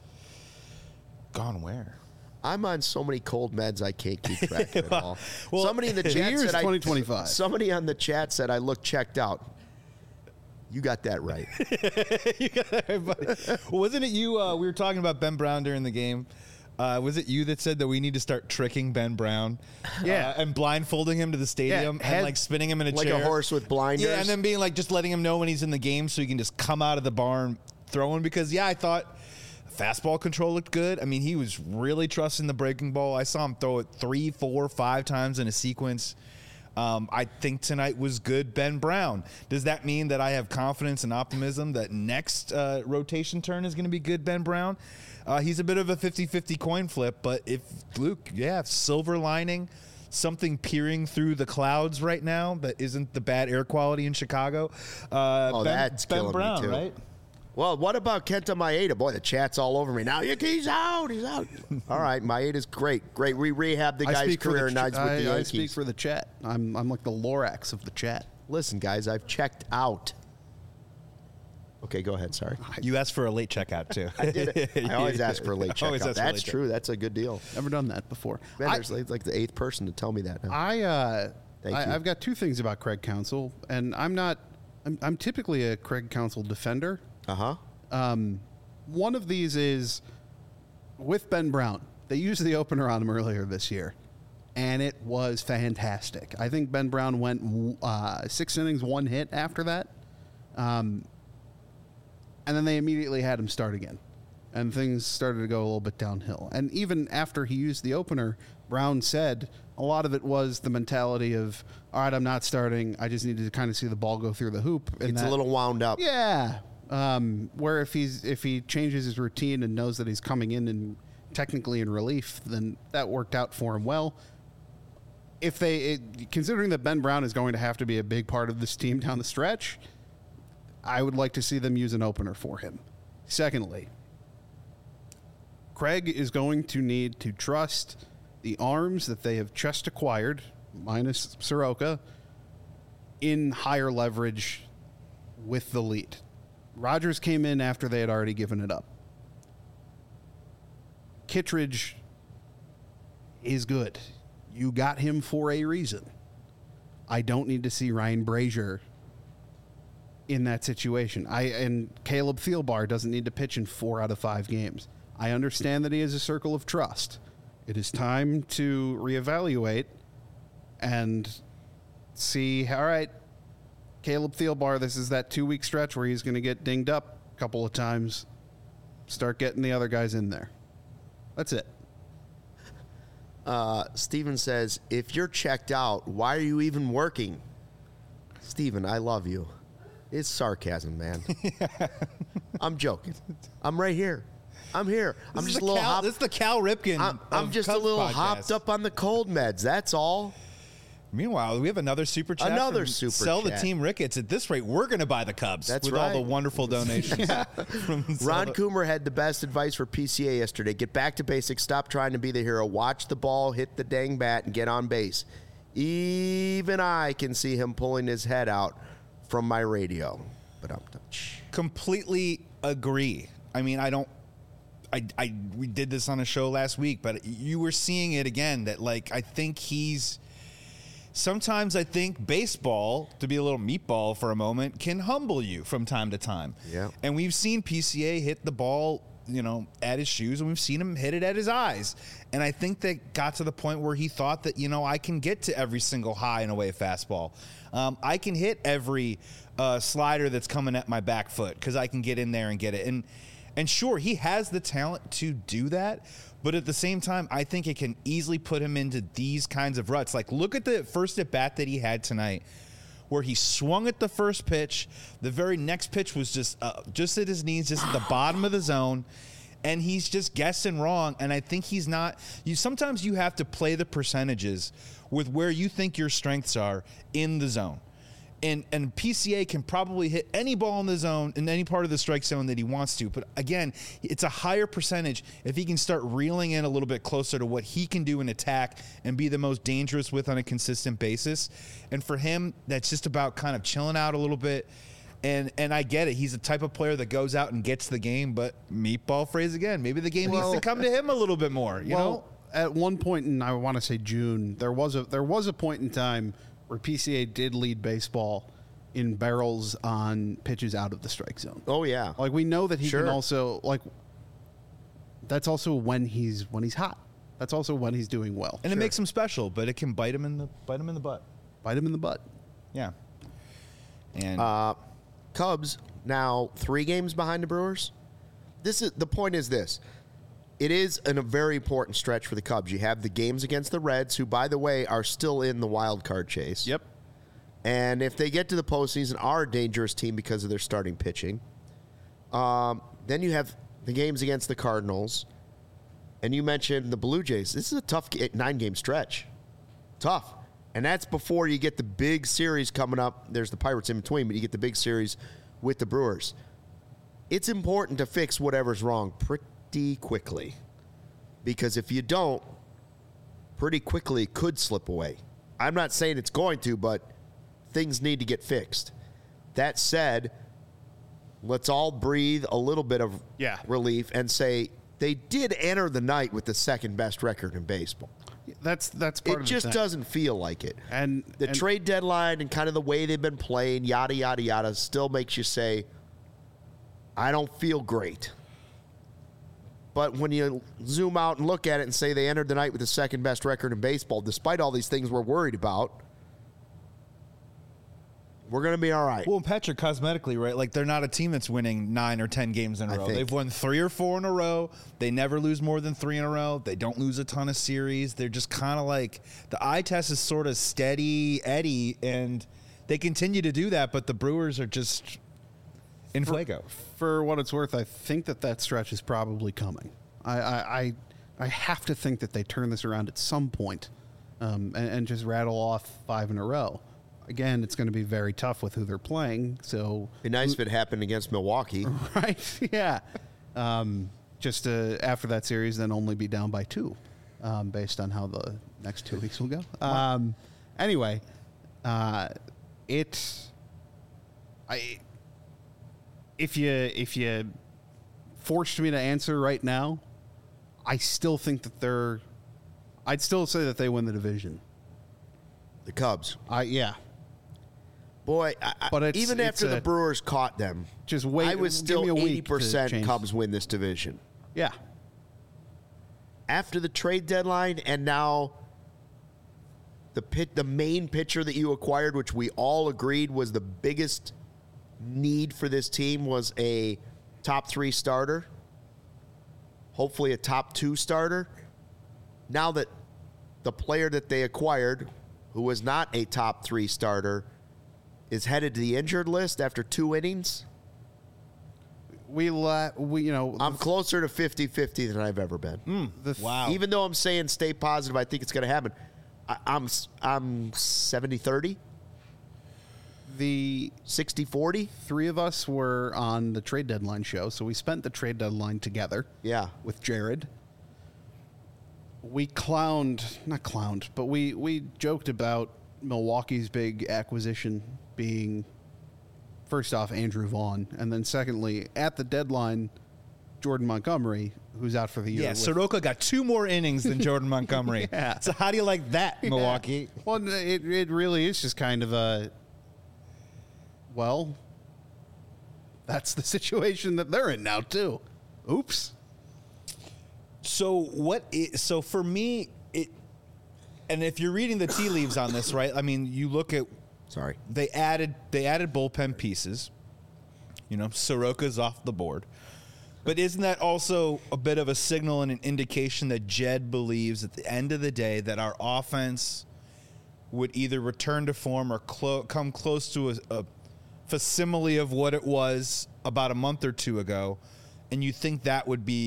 Gone where? I'm on so many cold meds I can't keep track of it all. Well, somebody in the chat year's said 2025. Somebody on the chat said I look checked out. You got that right. Well, wasn't it you? We were talking about Ben Brown during the game. Was it you that said that we need to start tricking Ben Brown? Yeah. And blindfolding him to the stadium and like spinning him in a like chair. a horse with blinders. Yeah, and then being like just letting him know when he's in the game so he can just come out of the barn throwing because, I thought fastball control looked good. I mean, he was really trusting the breaking ball. I saw him throw it 3, 4, 5 times in a sequence. I think tonight was good Ben Brown. Does that mean that I have confidence and optimism that next rotation turn is going to be good Ben Brown? He's a bit of a 50-50 coin flip, but if Luke, silver lining, something peering through the clouds right now that isn't the bad air quality in Chicago. That's Ben Brown, me too. right? Well, what about Kenta Maeda? Boy, the chat's all over me now. He's out. All right, Maeda's great. We rehabbed the guy's career nights with the Yankees. I speak for the chat. I'm like the Lorax of the chat. Listen, guys, I've checked out. Okay, go ahead. Sorry. You asked for a late checkout, too. I did. I always ask for a late checkout. That's true. That's a good deal. Never done that before. Man, there's like the 8th person to tell me that now. I've got 2 things about Craig Counsell, and I'm typically a Craig Counsell defender. One of these is with Ben Brown. They used the opener on him earlier this year, and it was fantastic. I think Ben Brown went 6 innings, 1 hit after that. And then they immediately had him start again. And things started to go a little bit downhill. And even after he used the opener, Brown said a lot of it was the mentality of, all right, I'm not starting. I just needed to kind of see the ball go through the hoop. It's a little wound up. Yeah. Where if he changes his routine and knows that he's coming in and technically in relief, then that worked out for him well. Considering that Ben Brown is going to have to be a big part of this team down the stretch, I would like to see them use an opener for him. Secondly, Craig is going to need to trust the arms that they have just acquired, minus Soroka, in higher leverage with the lead. Rodgers came in after they had already given it up. Kittredge is good. You got him for a reason. I don't need to see Ryan Brazier in that situation. And Caleb Thielbar doesn't need to pitch in 4 out of 5 games. I understand that he has a circle of trust. It is time to reevaluate and see, all right, Caleb Thielbar, this is that 2-week stretch where he's going to get dinged up a couple of times. Start getting the other guys in there. That's it. Steven says, if you're checked out, why are you even working? Steven, I love you. It's sarcasm, man. I'm joking. I'm right here. I'm here. I'm just a little hopped. This is the Cal Ripken. I'm just a little hopped up on the cold meds. That's all. Meanwhile, we have another super chat. Sell the team Ricketts. At this rate, we're going to buy the Cubs. That's with right. all the wonderful donations. Ron Coomer had the best advice for PCA yesterday. Get back to basics. Stop trying to be the hero. Watch the ball, hit the dang bat, and get on base. Even I can see him pulling his head out from my radio. But I'm completely agree. I mean, we did this on a show last week, but you were seeing it again that, like, I think sometimes I think baseball, to be a little meatball for a moment, can humble you from time to time. Yeah. And we've seen PCA hit the ball, at his shoes, and we've seen him hit it at his eyes. And I think that got to the point where he thought that, I can get to every single high and away fastball. I can hit every slider that's coming at my back foot because I can get in there and get it. And sure, he has the talent to do that, but at the same time, I think it can easily put him into these kinds of ruts. Like, look at the first at-bat that he had tonight, where he swung at the first pitch. The very next pitch was just at his knees, just at the bottom of the zone, and he's just guessing wrong. And I think he's not – sometimes you have to play the percentages with where you think your strengths are in the zone. And PCA can probably hit any ball in the zone, in any part of the strike zone that he wants to. But again, it's a higher percentage if he can start reeling in a little bit closer to what he can do in attack and be the most dangerous with on a consistent basis. And for him, that's just about kind of chilling out a little bit. And I get it. He's the type of player that goes out and gets the game. But meatball phrase again, maybe the game needs to come to him a little bit more. You know, at one point in, I want to say June, there was a point in time where PCA did lead baseball in barrels on pitches out of the strike zone. Oh yeah, like we know that he can also that's also when he's hot. That's also when he's doing well, and it makes him special. But it can bite him in the butt. Bite him in the butt. Yeah. And Cubs now 3 games behind the Brewers. The point is this. It is a very important stretch for the Cubs. You have the games against the Reds, who, by the way, are still in the wild card chase. Yep. And if they get to the postseason, are a dangerous team because of their starting pitching. Then you have the games against the Cardinals. And you mentioned the Blue Jays. This is a tough 9-game stretch. Tough. And that's before you get the big series coming up. There's the Pirates in between, but you get the big series with the Brewers. It's important to fix whatever's wrong pretty quickly, because if you don't, pretty quickly it could slip away. I'm not saying it's going to, but things need to get fixed. That said, let's all breathe a little bit of relief and say they did enter the night with the second best record in baseball. That's part of it. Just doesn't feel like it. And the trade deadline and kind of the way they've been playing, yada yada yada, still makes you say, I don't feel great. But when you zoom out and look at it and say they entered the night with the second best record in baseball, despite all these things we're worried about, we're going to be all right. Well, Patrick, cosmetically, right? Like, they're not a team that's winning 9 or 10 games in a row. They've won 3 or 4 in a row. They never lose more than 3 in a row. They don't lose a ton of series. They're just kind of like, the eye test is sort of steady Eddie, and they continue to do that, but the Brewers are just in fuego. For what it's worth, I think that stretch is probably coming. I have to think that they turn this around at some point, and just rattle off 5 in a row. Again, it's going to be very tough with who they're playing. So it'd be nice if it happened against Milwaukee, right? Yeah. Just after that series, then only be down by 2, based on how the next 2 weeks will go. Anyway, If you forced me to answer right now, I still think that I'd still say that they win the division. The Cubs. Yeah. Boy, But even after the Brewers caught them, just wait. I was give me still a week to 80% change. Cubs win this division. Yeah. After the trade deadline and now the main pitcher that you acquired, which we all agreed was the biggest need for this team, was a top 3 starter, hopefully a top 2 starter. Now that the player that they acquired, who was not a top 3 starter, is headed to the injured list after 2 innings, I'm closer to 50-50 than I've ever been. Wow. Even though I'm saying stay positive, I think it's going to happen. I'm 70-30, the 60-40. 3 of us were on the trade deadline show, so we spent the trade deadline together. Yeah. With Jared. We not clowned, but we joked about Milwaukee's big acquisition being, first off, Andrew Vaughn, and then secondly, at the deadline, Jordan Montgomery, who's out for the year. Yeah, Soroka got 2 more innings than Jordan Montgomery. Yeah. So how do you like that, Milwaukee? Well, it really is just kind of that's the situation that they're in now, too. Oops. So for me, and if you're reading the tea leaves on this, right? I mean, you look at, they added bullpen pieces. Soroka's off the board. But isn't that also a bit of a signal and an indication that Jed believes at the end of the day that our offense would either return to form or come close to a facsimile of what it was about a month or 2 ago, and you think that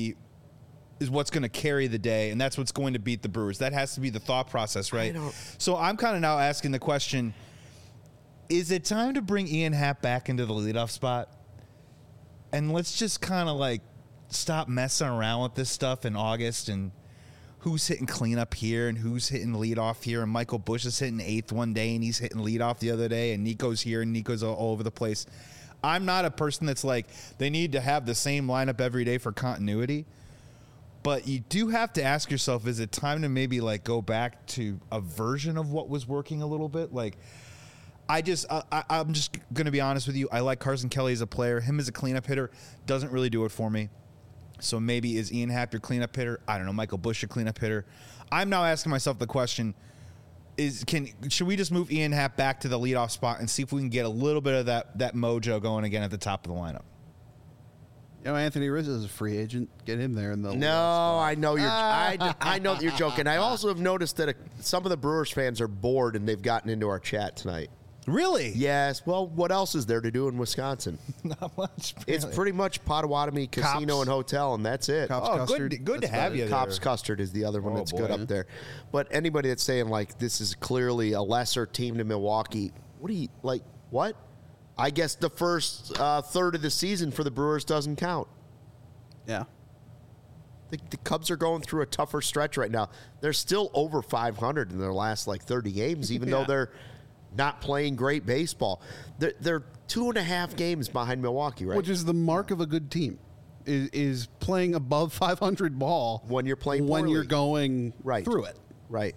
is what's going to carry the day, and that's what's going to beat the Brewers? That has to be the thought process, right? So I'm kind of now asking the question, is it time to bring Ian Happ back into the leadoff spot? And let's just kind of stop messing around with this stuff in August and who's hitting cleanup here and who's hitting leadoff here. And Michael Busch is hitting 8th one day and he's hitting leadoff the other day, and Nico's here and Nico's all over the place. I'm not a person that's they need to have the same lineup every day for continuity. But you do have to ask yourself, is it time to maybe go back to a version of what was working a little bit? I'm just going to be honest with you. I like Carson Kelly as a player. Him as a cleanup hitter doesn't really do it for me. So maybe is Ian Happ your cleanup hitter? I don't know. Michael Busch your cleanup hitter? I'm now asking myself the question, should we just move Ian Happ back to the leadoff spot and see if we can get a little bit of that mojo going again at the top of the lineup? Anthony Rizzo is a free agent. Get him there in the No, I know you're. I know that you're joking. I also have noticed that some of the Brewers fans are bored and they've gotten into our chat tonight. Really? Yes. Well, what else is there to do in Wisconsin? Not much. Really. It's pretty much Potawatomi Casino and Hotel, and that's it. Cops Custard. Good to have you there. Cops Custard is the other one that's good up there. But anybody that's saying this is clearly a lesser team to Milwaukee, what? I guess the first third of the season for the Brewers doesn't count. Yeah. The Cubs are going through a tougher stretch right now. They're still over 500 in their last 30 games, even though they're not playing great baseball. They're 2.5 games behind Milwaukee, right? Which is the mark of a good team, is playing above 500 ball when you're playing poorly. When you're going through it. Right.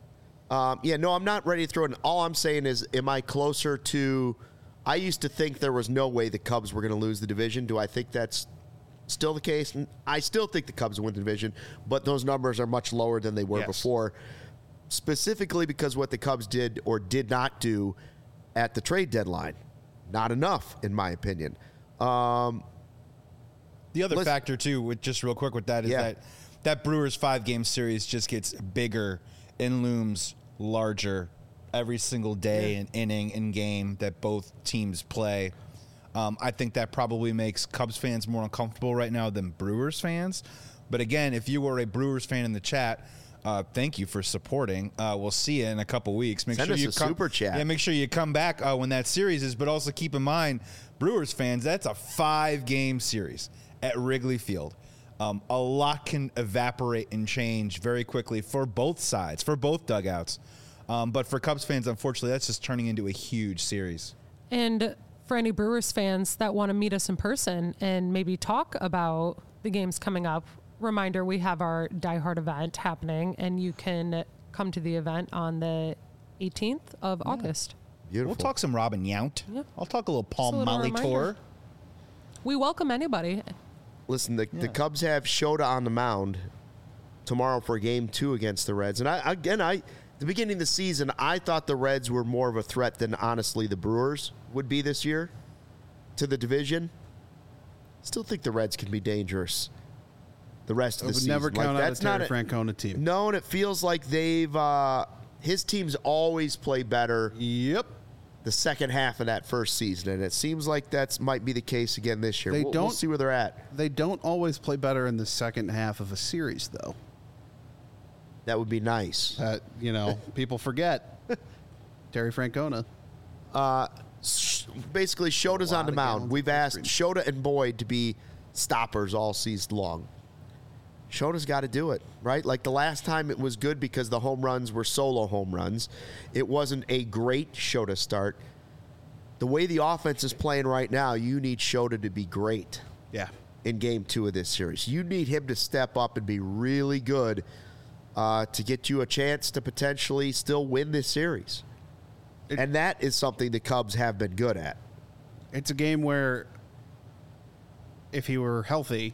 I'm not ready to throw it. All I'm saying is, am I closer to... I used to think there was no way the Cubs were going to lose the division. Do I think that's still the case? I still think the Cubs win the division, but those numbers are much lower than they were before, specifically because what the Cubs did or did not do at the trade deadline. Not enough, in my opinion. The other factor, too, just real quick with that, is that Brewers 5-game series just gets bigger and looms larger every single day and inning and game that both teams play. I think that probably makes Cubs fans more uncomfortable right now than Brewers fans. But again, if you were a Brewers fan in the chat, thank you for supporting. We'll see you in a couple weeks. Send us a super chat. Yeah, make sure you come back when that series is. But also keep in mind, Brewers fans, that's a 5-game series at Wrigley Field. A lot can evaporate and change very quickly for both sides, for both dugouts. But for Cubs fans, unfortunately, that's just turning into a huge series. And for any Brewers fans that want to meet us in person and maybe talk about the games coming up, reminder, we have our Die Hard event happening, and you can come to the event on the 18th of August. Beautiful. We'll talk some Robin Yount. Yeah. I'll talk a little Paul Just a little Molitor. reminder. We welcome anybody. Listen, the Cubs have Shota on the mound tomorrow for Game 2 against the Reds. And at the beginning of the season, I thought the Reds were more of a threat than, honestly, the Brewers would be this year to the division. Still think the Reds can be dangerous the rest of the season. I would never count out a Terry Francona team. No, and it feels like his teams always play better Yep. the second half of that first season, and it seems like that might be the case again this year. We'll see where they're at. They don't always play better in the second half of a series, though. That would be nice. People forget. Terry Francona. Basically, Shota's on the mound. We've asked Shota and Boyd to be stoppers all season long. Shota's got to do it, right? Like the last time it was good because the home runs were solo home runs. It wasn't a great Shota start. The way the offense is playing right now, you need Shota to be great. Yeah. In Game 2 of this series. You need him to step up and be really good to get you a chance to potentially still win this series. And that is something the Cubs have been good at. It's a game where if he were healthy,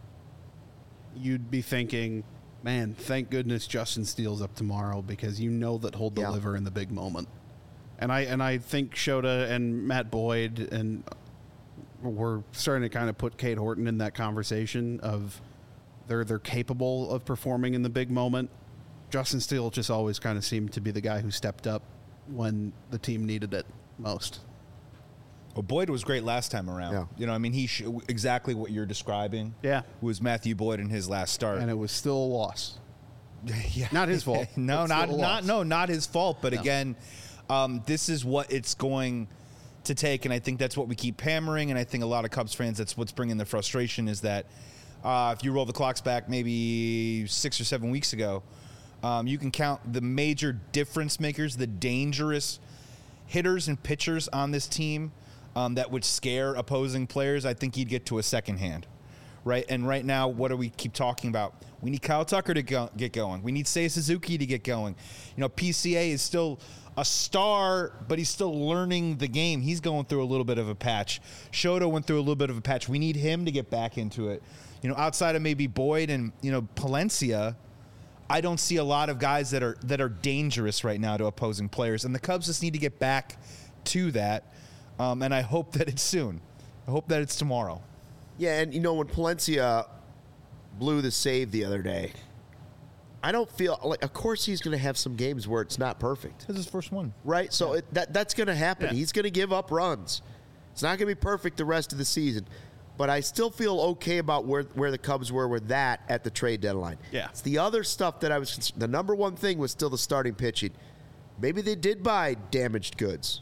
you'd be thinking, man, thank goodness Justin Steele's up tomorrow because you know that he'll deliver in the big moment. And I think Shota and Matt Boyd, and we're starting to kind of put Cade Horton in that conversation of they're capable of performing in the big moment. Justin Steele just always kind of seemed to be the guy who stepped up when the team needed it most. Well, Boyd was great last time around. Yeah. He exactly what you're describing. Yeah. Was Matthew Boyd in his last start. And it was still a loss. Yeah. Not his fault. Not his fault. But again, this is what it's going to take. And I think that's what we keep hammering. And I think a lot of Cubs fans, that's what's bringing the frustration is that if you roll the clocks back maybe 6 or 7 weeks ago, you can count the major difference makers, the dangerous hitters and pitchers on this team that would scare opposing players. I think you'd get to a second hand, right? And right now, what do we keep talking about? We need Kyle Tucker to get going. We need Seiya Suzuki to get going. PCA is still a star, but he's still learning the game. He's going through a little bit of a patch. Shota went through a little bit of a patch. We need him to get back into it. Outside of maybe Boyd and, Palencia, I don't see a lot of guys that are dangerous right now to opposing players, and the Cubs just need to get back to that. And I hope that it's soon. I hope that it's tomorrow. Yeah, and when Palencia blew the save the other day, I don't feel like. Of course, he's going to have some games where it's not perfect. This is his first one, right? So that's going to happen. Yeah. He's going to give up runs. It's not going to be perfect the rest of the season. But I still feel okay about where the Cubs were with that at the trade deadline. Yeah. It's the other stuff that the number one thing was still the starting pitching. Maybe they did buy damaged goods.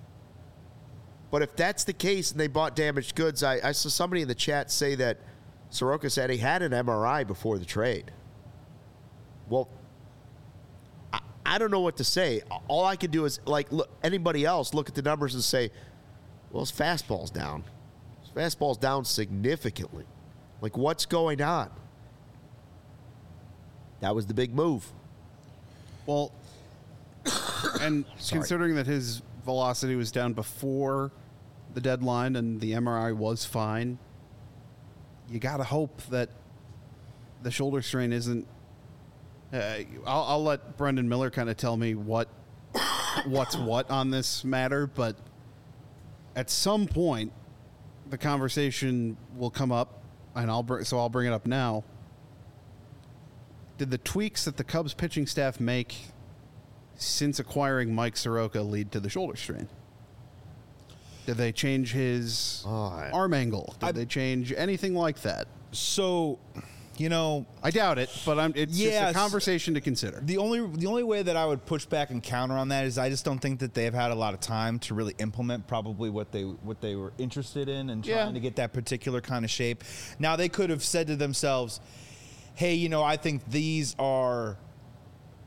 But if that's the case and they bought damaged goods, I saw somebody in the chat say that Soroka said he had an MRI before the trade. Well, I don't know what to say. All I can do is, look, anybody else look at the numbers and say, well, his fastball's down. Fastball's down significantly. What's going on? That was the big move. Well, and considering that his velocity was down before the deadline and the MRI was fine, you got to hope that the shoulder strain isn't. I'll let Brendan Miller kind of tell me what's what on this matter, but at some point, the conversation will come up, and I'll bring it up now. Did the tweaks that the Cubs pitching staff make since acquiring Mike Soroka lead to the shoulder strain? Did they change his arm angle? Did they change anything like that? So, I doubt it, but it's just a conversation to consider. The only way that I would push back and counter on that is I just don't think that they've had a lot of time to really implement probably what they were interested in and trying to get that particular kind of shape. Now, they could have said to themselves, hey, I think these are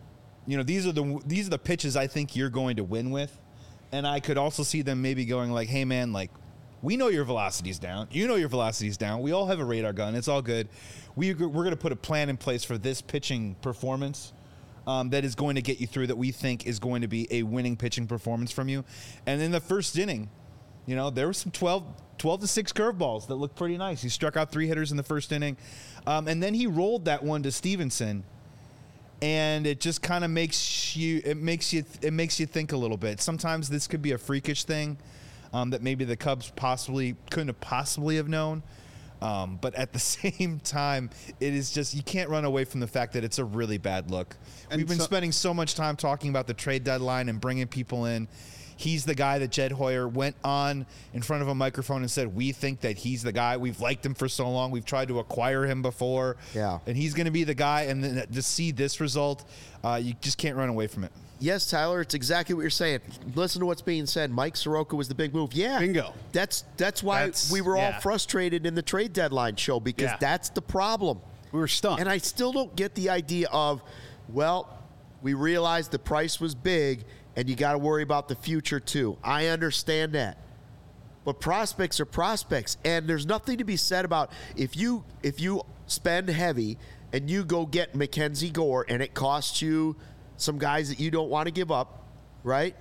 these are the pitches I think you're going to win with. And I could also see them maybe going like, hey, man, like, we know your velocity's down. You know your velocity's down. We all have a radar gun. It's all good. We're going to put a plan in place for this pitching performance that is going to get you through, that we think is going to be a winning pitching performance from you. And in the first inning, there were some 12 to 6 curveballs that looked pretty nice. He struck out 3 hitters in the first inning. And then he rolled that one to Stevenson. And it just kind of makes you think a little bit. Sometimes this could be a freakish thing that maybe the Cubs couldn't have possibly have known. But at the same time, it is just, you can't run away from the fact that it's a really bad look. And we've been spending so much time talking about the trade deadline and bringing people in. He's the guy that Jed Hoyer went on in front of a microphone and said, we think that he's the guy. We've liked him for so long. We've tried to acquire him before. Yeah. And he's going to be the guy. And then to see this result, you just can't run away from it. Yes, Tyler, it's exactly what you're saying. Listen to what's being said. Mike Soroka was the big move. Yeah. Bingo. That's why we were all frustrated in the trade deadline show, because that's the problem. We were stunned. And I still don't get the idea of, well, we realized the price was big, and you got to worry about the future too. I understand that. But prospects are prospects, and there's nothing to be said about if you spend heavy and you go get Mackenzie Gore and it costs you some guys that you don't want to give up, right?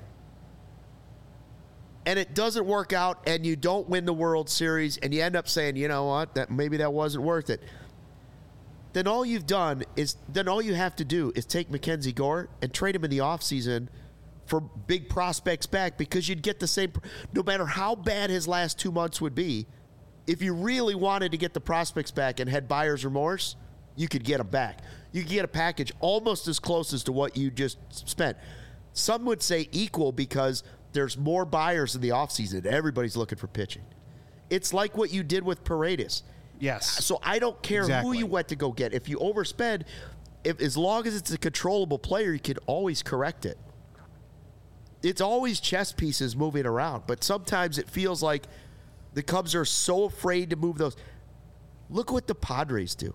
And it doesn't work out and you don't win the World Series and you end up saying, you know what, maybe that wasn't worth it. Then all you have to do is take Mackenzie Gore and trade him in the offseason for big prospects back, because you'd get the same, no matter how bad his last 2 months would be. If you really wanted to get the prospects back and had buyer's remorse, you could get them back. You could get a package almost as close as to what you just spent. Some would say equal, because there's more buyers in the offseason. Everybody's looking for pitching. It's like what you did with Paredes. Yes. So I don't care who you went to go get. If you overspend, as long as it's a controllable player, you can always correct it. It's always chess pieces moving around, but sometimes it feels like the Cubs are so afraid to move those. Look what the Padres do.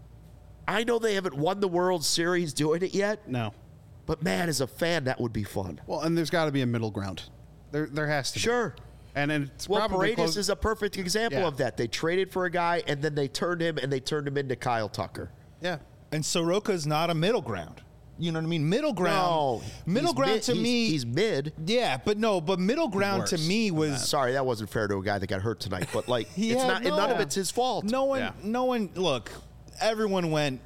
I know they haven't won the World Series doing it yet. No. But, man, as a fan, that would be fun. Well, and there's got to be a middle ground. There has to be. Sure. And it's Paredes is a perfect example of that. They traded for a guy, and then they turned him into Kyle Tucker. Yeah. And Soroka's not a middle ground. You know what I mean? Middle ground. No, middle ground to me. He's mid. Yeah, but middle ground to me was. Sorry, that wasn't fair to a guy that got hurt tonight. But it's not. No. None of it's his fault. No one. Look, everyone's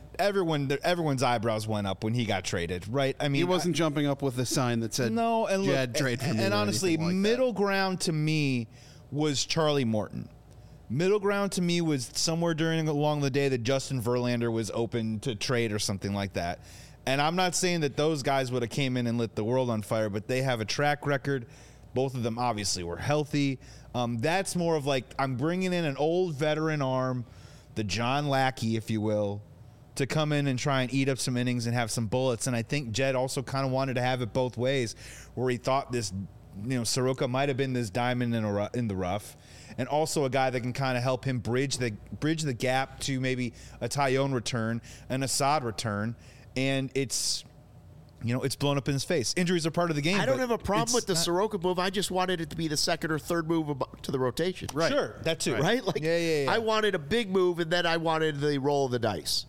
eyebrows went up when he got traded, right? I mean, he wasn't jumping up with a sign that said, "No," and Jed, trade for me. And honestly, middle ground to me was Charlie Morton. Middle ground to me was somewhere along the day that Justin Verlander was open to trade or something like that. And I'm not saying that those guys would have came in and lit the world on fire, but they have a track record. Both of them obviously were healthy. That's more of like, I'm bringing in an old veteran arm, the John Lackey, if you will, to come in and try and eat up some innings and have some bullets. And I think Jed also kind of wanted to have it both ways, where he thought this, Soroka might have been this diamond in the rough, and also a guy that can kind of help him bridge the gap to maybe a Tyone return, an Assad return. And it's blown up in his face. Injuries are part of the game. I don't have a problem with the Soroka move. I just wanted it to be the second or third move to the rotation. Right. Sure, that too. Right? I wanted a big move, and then I wanted the roll of the dice.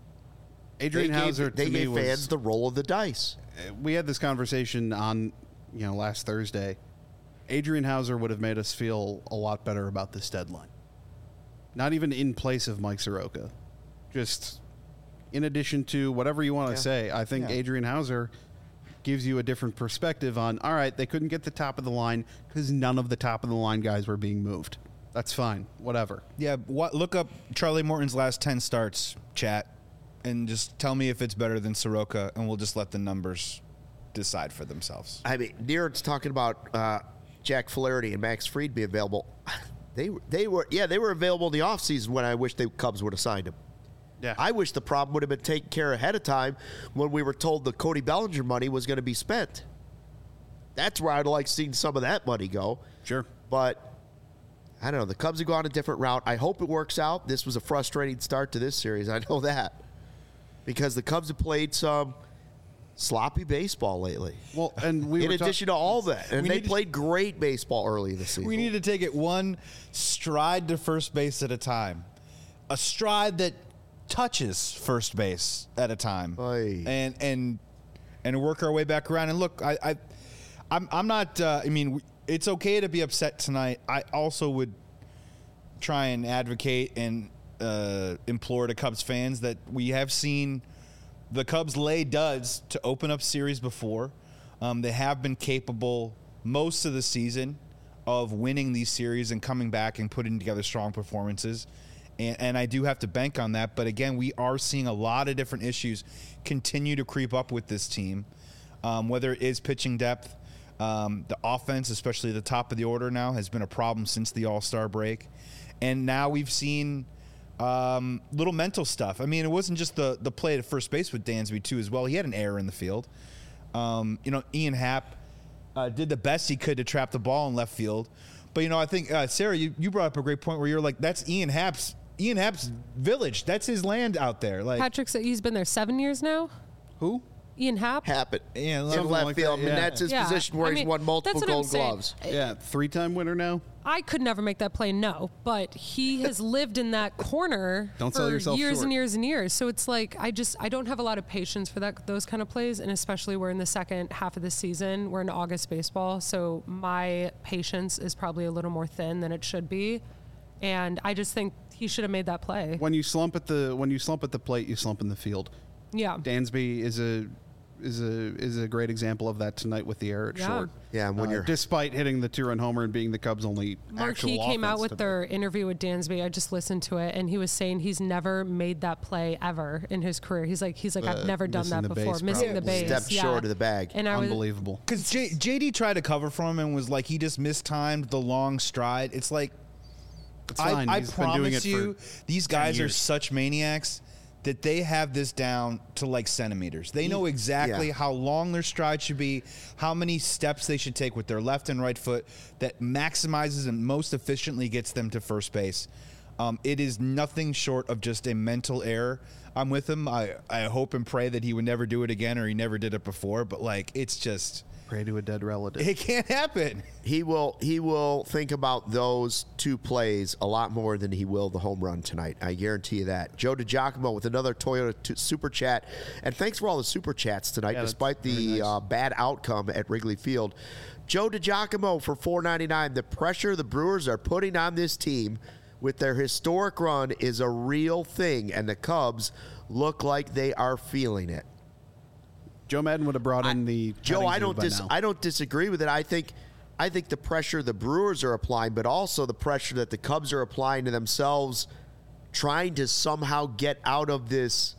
Adrian Hauser, they gave fans the roll of the dice. We had this conversation on, last Thursday. Adrian Hauser would have made us feel a lot better about this deadline. Not even in place of Mike Soroka. Just in addition to whatever you want to say, I think Adrian Hauser gives you a different perspective on, all right, they couldn't get the top of the line because none of the top of the line guys were being moved. That's fine. Whatever. Yeah, look up Charlie Morton's last 10 starts, chat, and just tell me if it's better than Soroka, and we'll just let the numbers decide for themselves. I mean, Neer's talking about Jack Flaherty and Max Fried be available. They were available in the offseason when I wish the Cubs would have signed him. Yeah. I wish the problem would have been taken care of ahead of time when we were told the Cody Bellinger money was going to be spent. That's where I'd like seeing some of that money go. Sure. But I don't know. The Cubs have gone a different route. I hope it works out. This was a frustrating start to this series. I know that. Because the Cubs have played some sloppy baseball lately. Well, and in addition to all that, and they played great baseball early this season. We need to take it one stride to first base at a time, a stride that touches first base at a time, and work our way back around. And look, I'm not. I mean, it's okay to be upset tonight. I also would try and advocate and implore to Cubs fans that we have seen the Cubs lay duds to open up series before. They have been capable most of the season of winning these series and coming back and putting together strong performances. And I do have to bank on that. But again, we are seeing a lot of different issues continue to creep up with this team, whether it is pitching depth. The offense, especially the top of the order now, has been a problem since the All-Star break. And now we've seen little mental stuff. I mean, it wasn't just the play at first base with Dansby, too, as well. He had an error in the field. Ian Happ did the best he could to trap the ball in left field. But, I think, Sarah, you brought up a great point where you're like, that's Ian Happ's village. That's his land out there. Like Patrick said he's been there 7 years now. Who? Ian Happ. Happen. Yeah, in left like field. That, yeah. And that's his position where he's won multiple Gold Gloves. Yeah, 3-time winner now. I could never make that play, no. But he has lived in that corner Don't sell for yourself years short. and years and years. So it's like I don't have a lot of patience for those kind of plays, and especially we're in the second half of the season. We're in August baseball, so my patience is probably a little more thin than it should be. And I just think he should have made that play. When you slump at the plate, you slump in the field. Yeah. Dansby is a great example of that tonight with the error at short. Yeah, and when you're despite hitting the 2-run homer and being the Cubs' only Marquee came out with their interview with Dansby. I just listened to it, and he was saying he's never made that play ever in his career. He's like I've never done that before. Missing the base, stepped short of the bag. And unbelievable. Because JD tried to cover for him and was like he just mistimed the long stride. It's like I promise you, these guys are such maniacs that they have this down to like centimeters. They know exactly how long their stride should be, how many steps they should take with their left and right foot that maximizes and most efficiently gets them to first base. It is nothing short of just a mental error. I'm with him. I hope and pray that he would never do it again, or he never did it before. But like, it's just pray to a dead relative. It can't happen. He will think about those two plays a lot more than he will the home run tonight. I guarantee you that. Joe DiGiacomo with another Toyota super chat, and thanks for all the super chats tonight, despite the bad outcome at Wrigley Field. Joe DiGiacomo for $4.99. The pressure the Brewers are putting on this team with their historic run is a real thing, and the Cubs look like they are feeling it. Joe Madden would have brought in the Joe. I don't disagree with it. I think the pressure the Brewers are applying, but also the pressure that the Cubs are applying to themselves, trying to somehow get out of this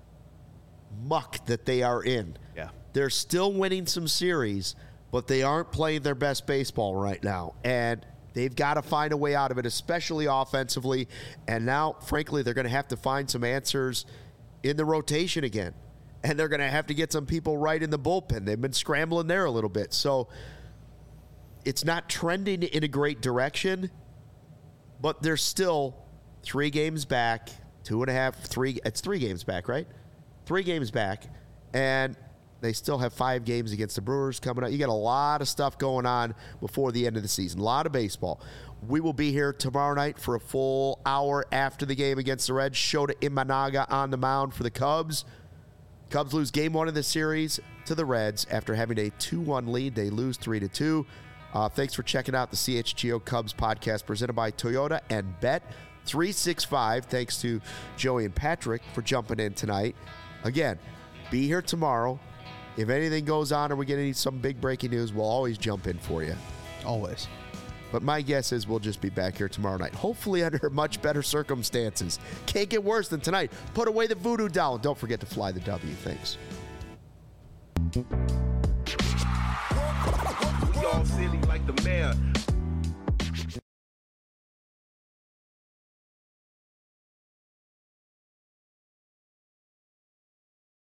muck that they are in. Yeah, they're still winning some series, but they aren't playing their best baseball right now, and they've got to find a way out of it, especially offensively. And now, frankly, they're going to have to find some answers in the rotation again. And they're going to have to get some people right in the bullpen. They've been scrambling there a little bit. So it's not trending in a great direction, but they're still 3 games back, 2.5, 3. It's 3 games back, right? 3 games back. And they still have 5 games against the Brewers coming up. You got a lot of stuff going on before the end of the season. A lot of baseball. We will be here tomorrow night for a full hour after the game against the Reds. Shota Imanaga on the mound for the Cubs. Cubs lose game 1 of the series to the Reds after having a 2-1 lead. They lose 3-2. Thanks for checking out the CHGO Cubs podcast presented by Toyota and Bet365. Thanks to Joey and Patrick for jumping in tonight. Again, be here tomorrow. If anything goes on or we get some big breaking news, we'll always jump in for you. Always. But my guess is we'll just be back here tomorrow night, hopefully under much better circumstances. Can't get worse than tonight. Put away the voodoo doll. Don't forget to fly the W. Thanks. We all silly like the mayor.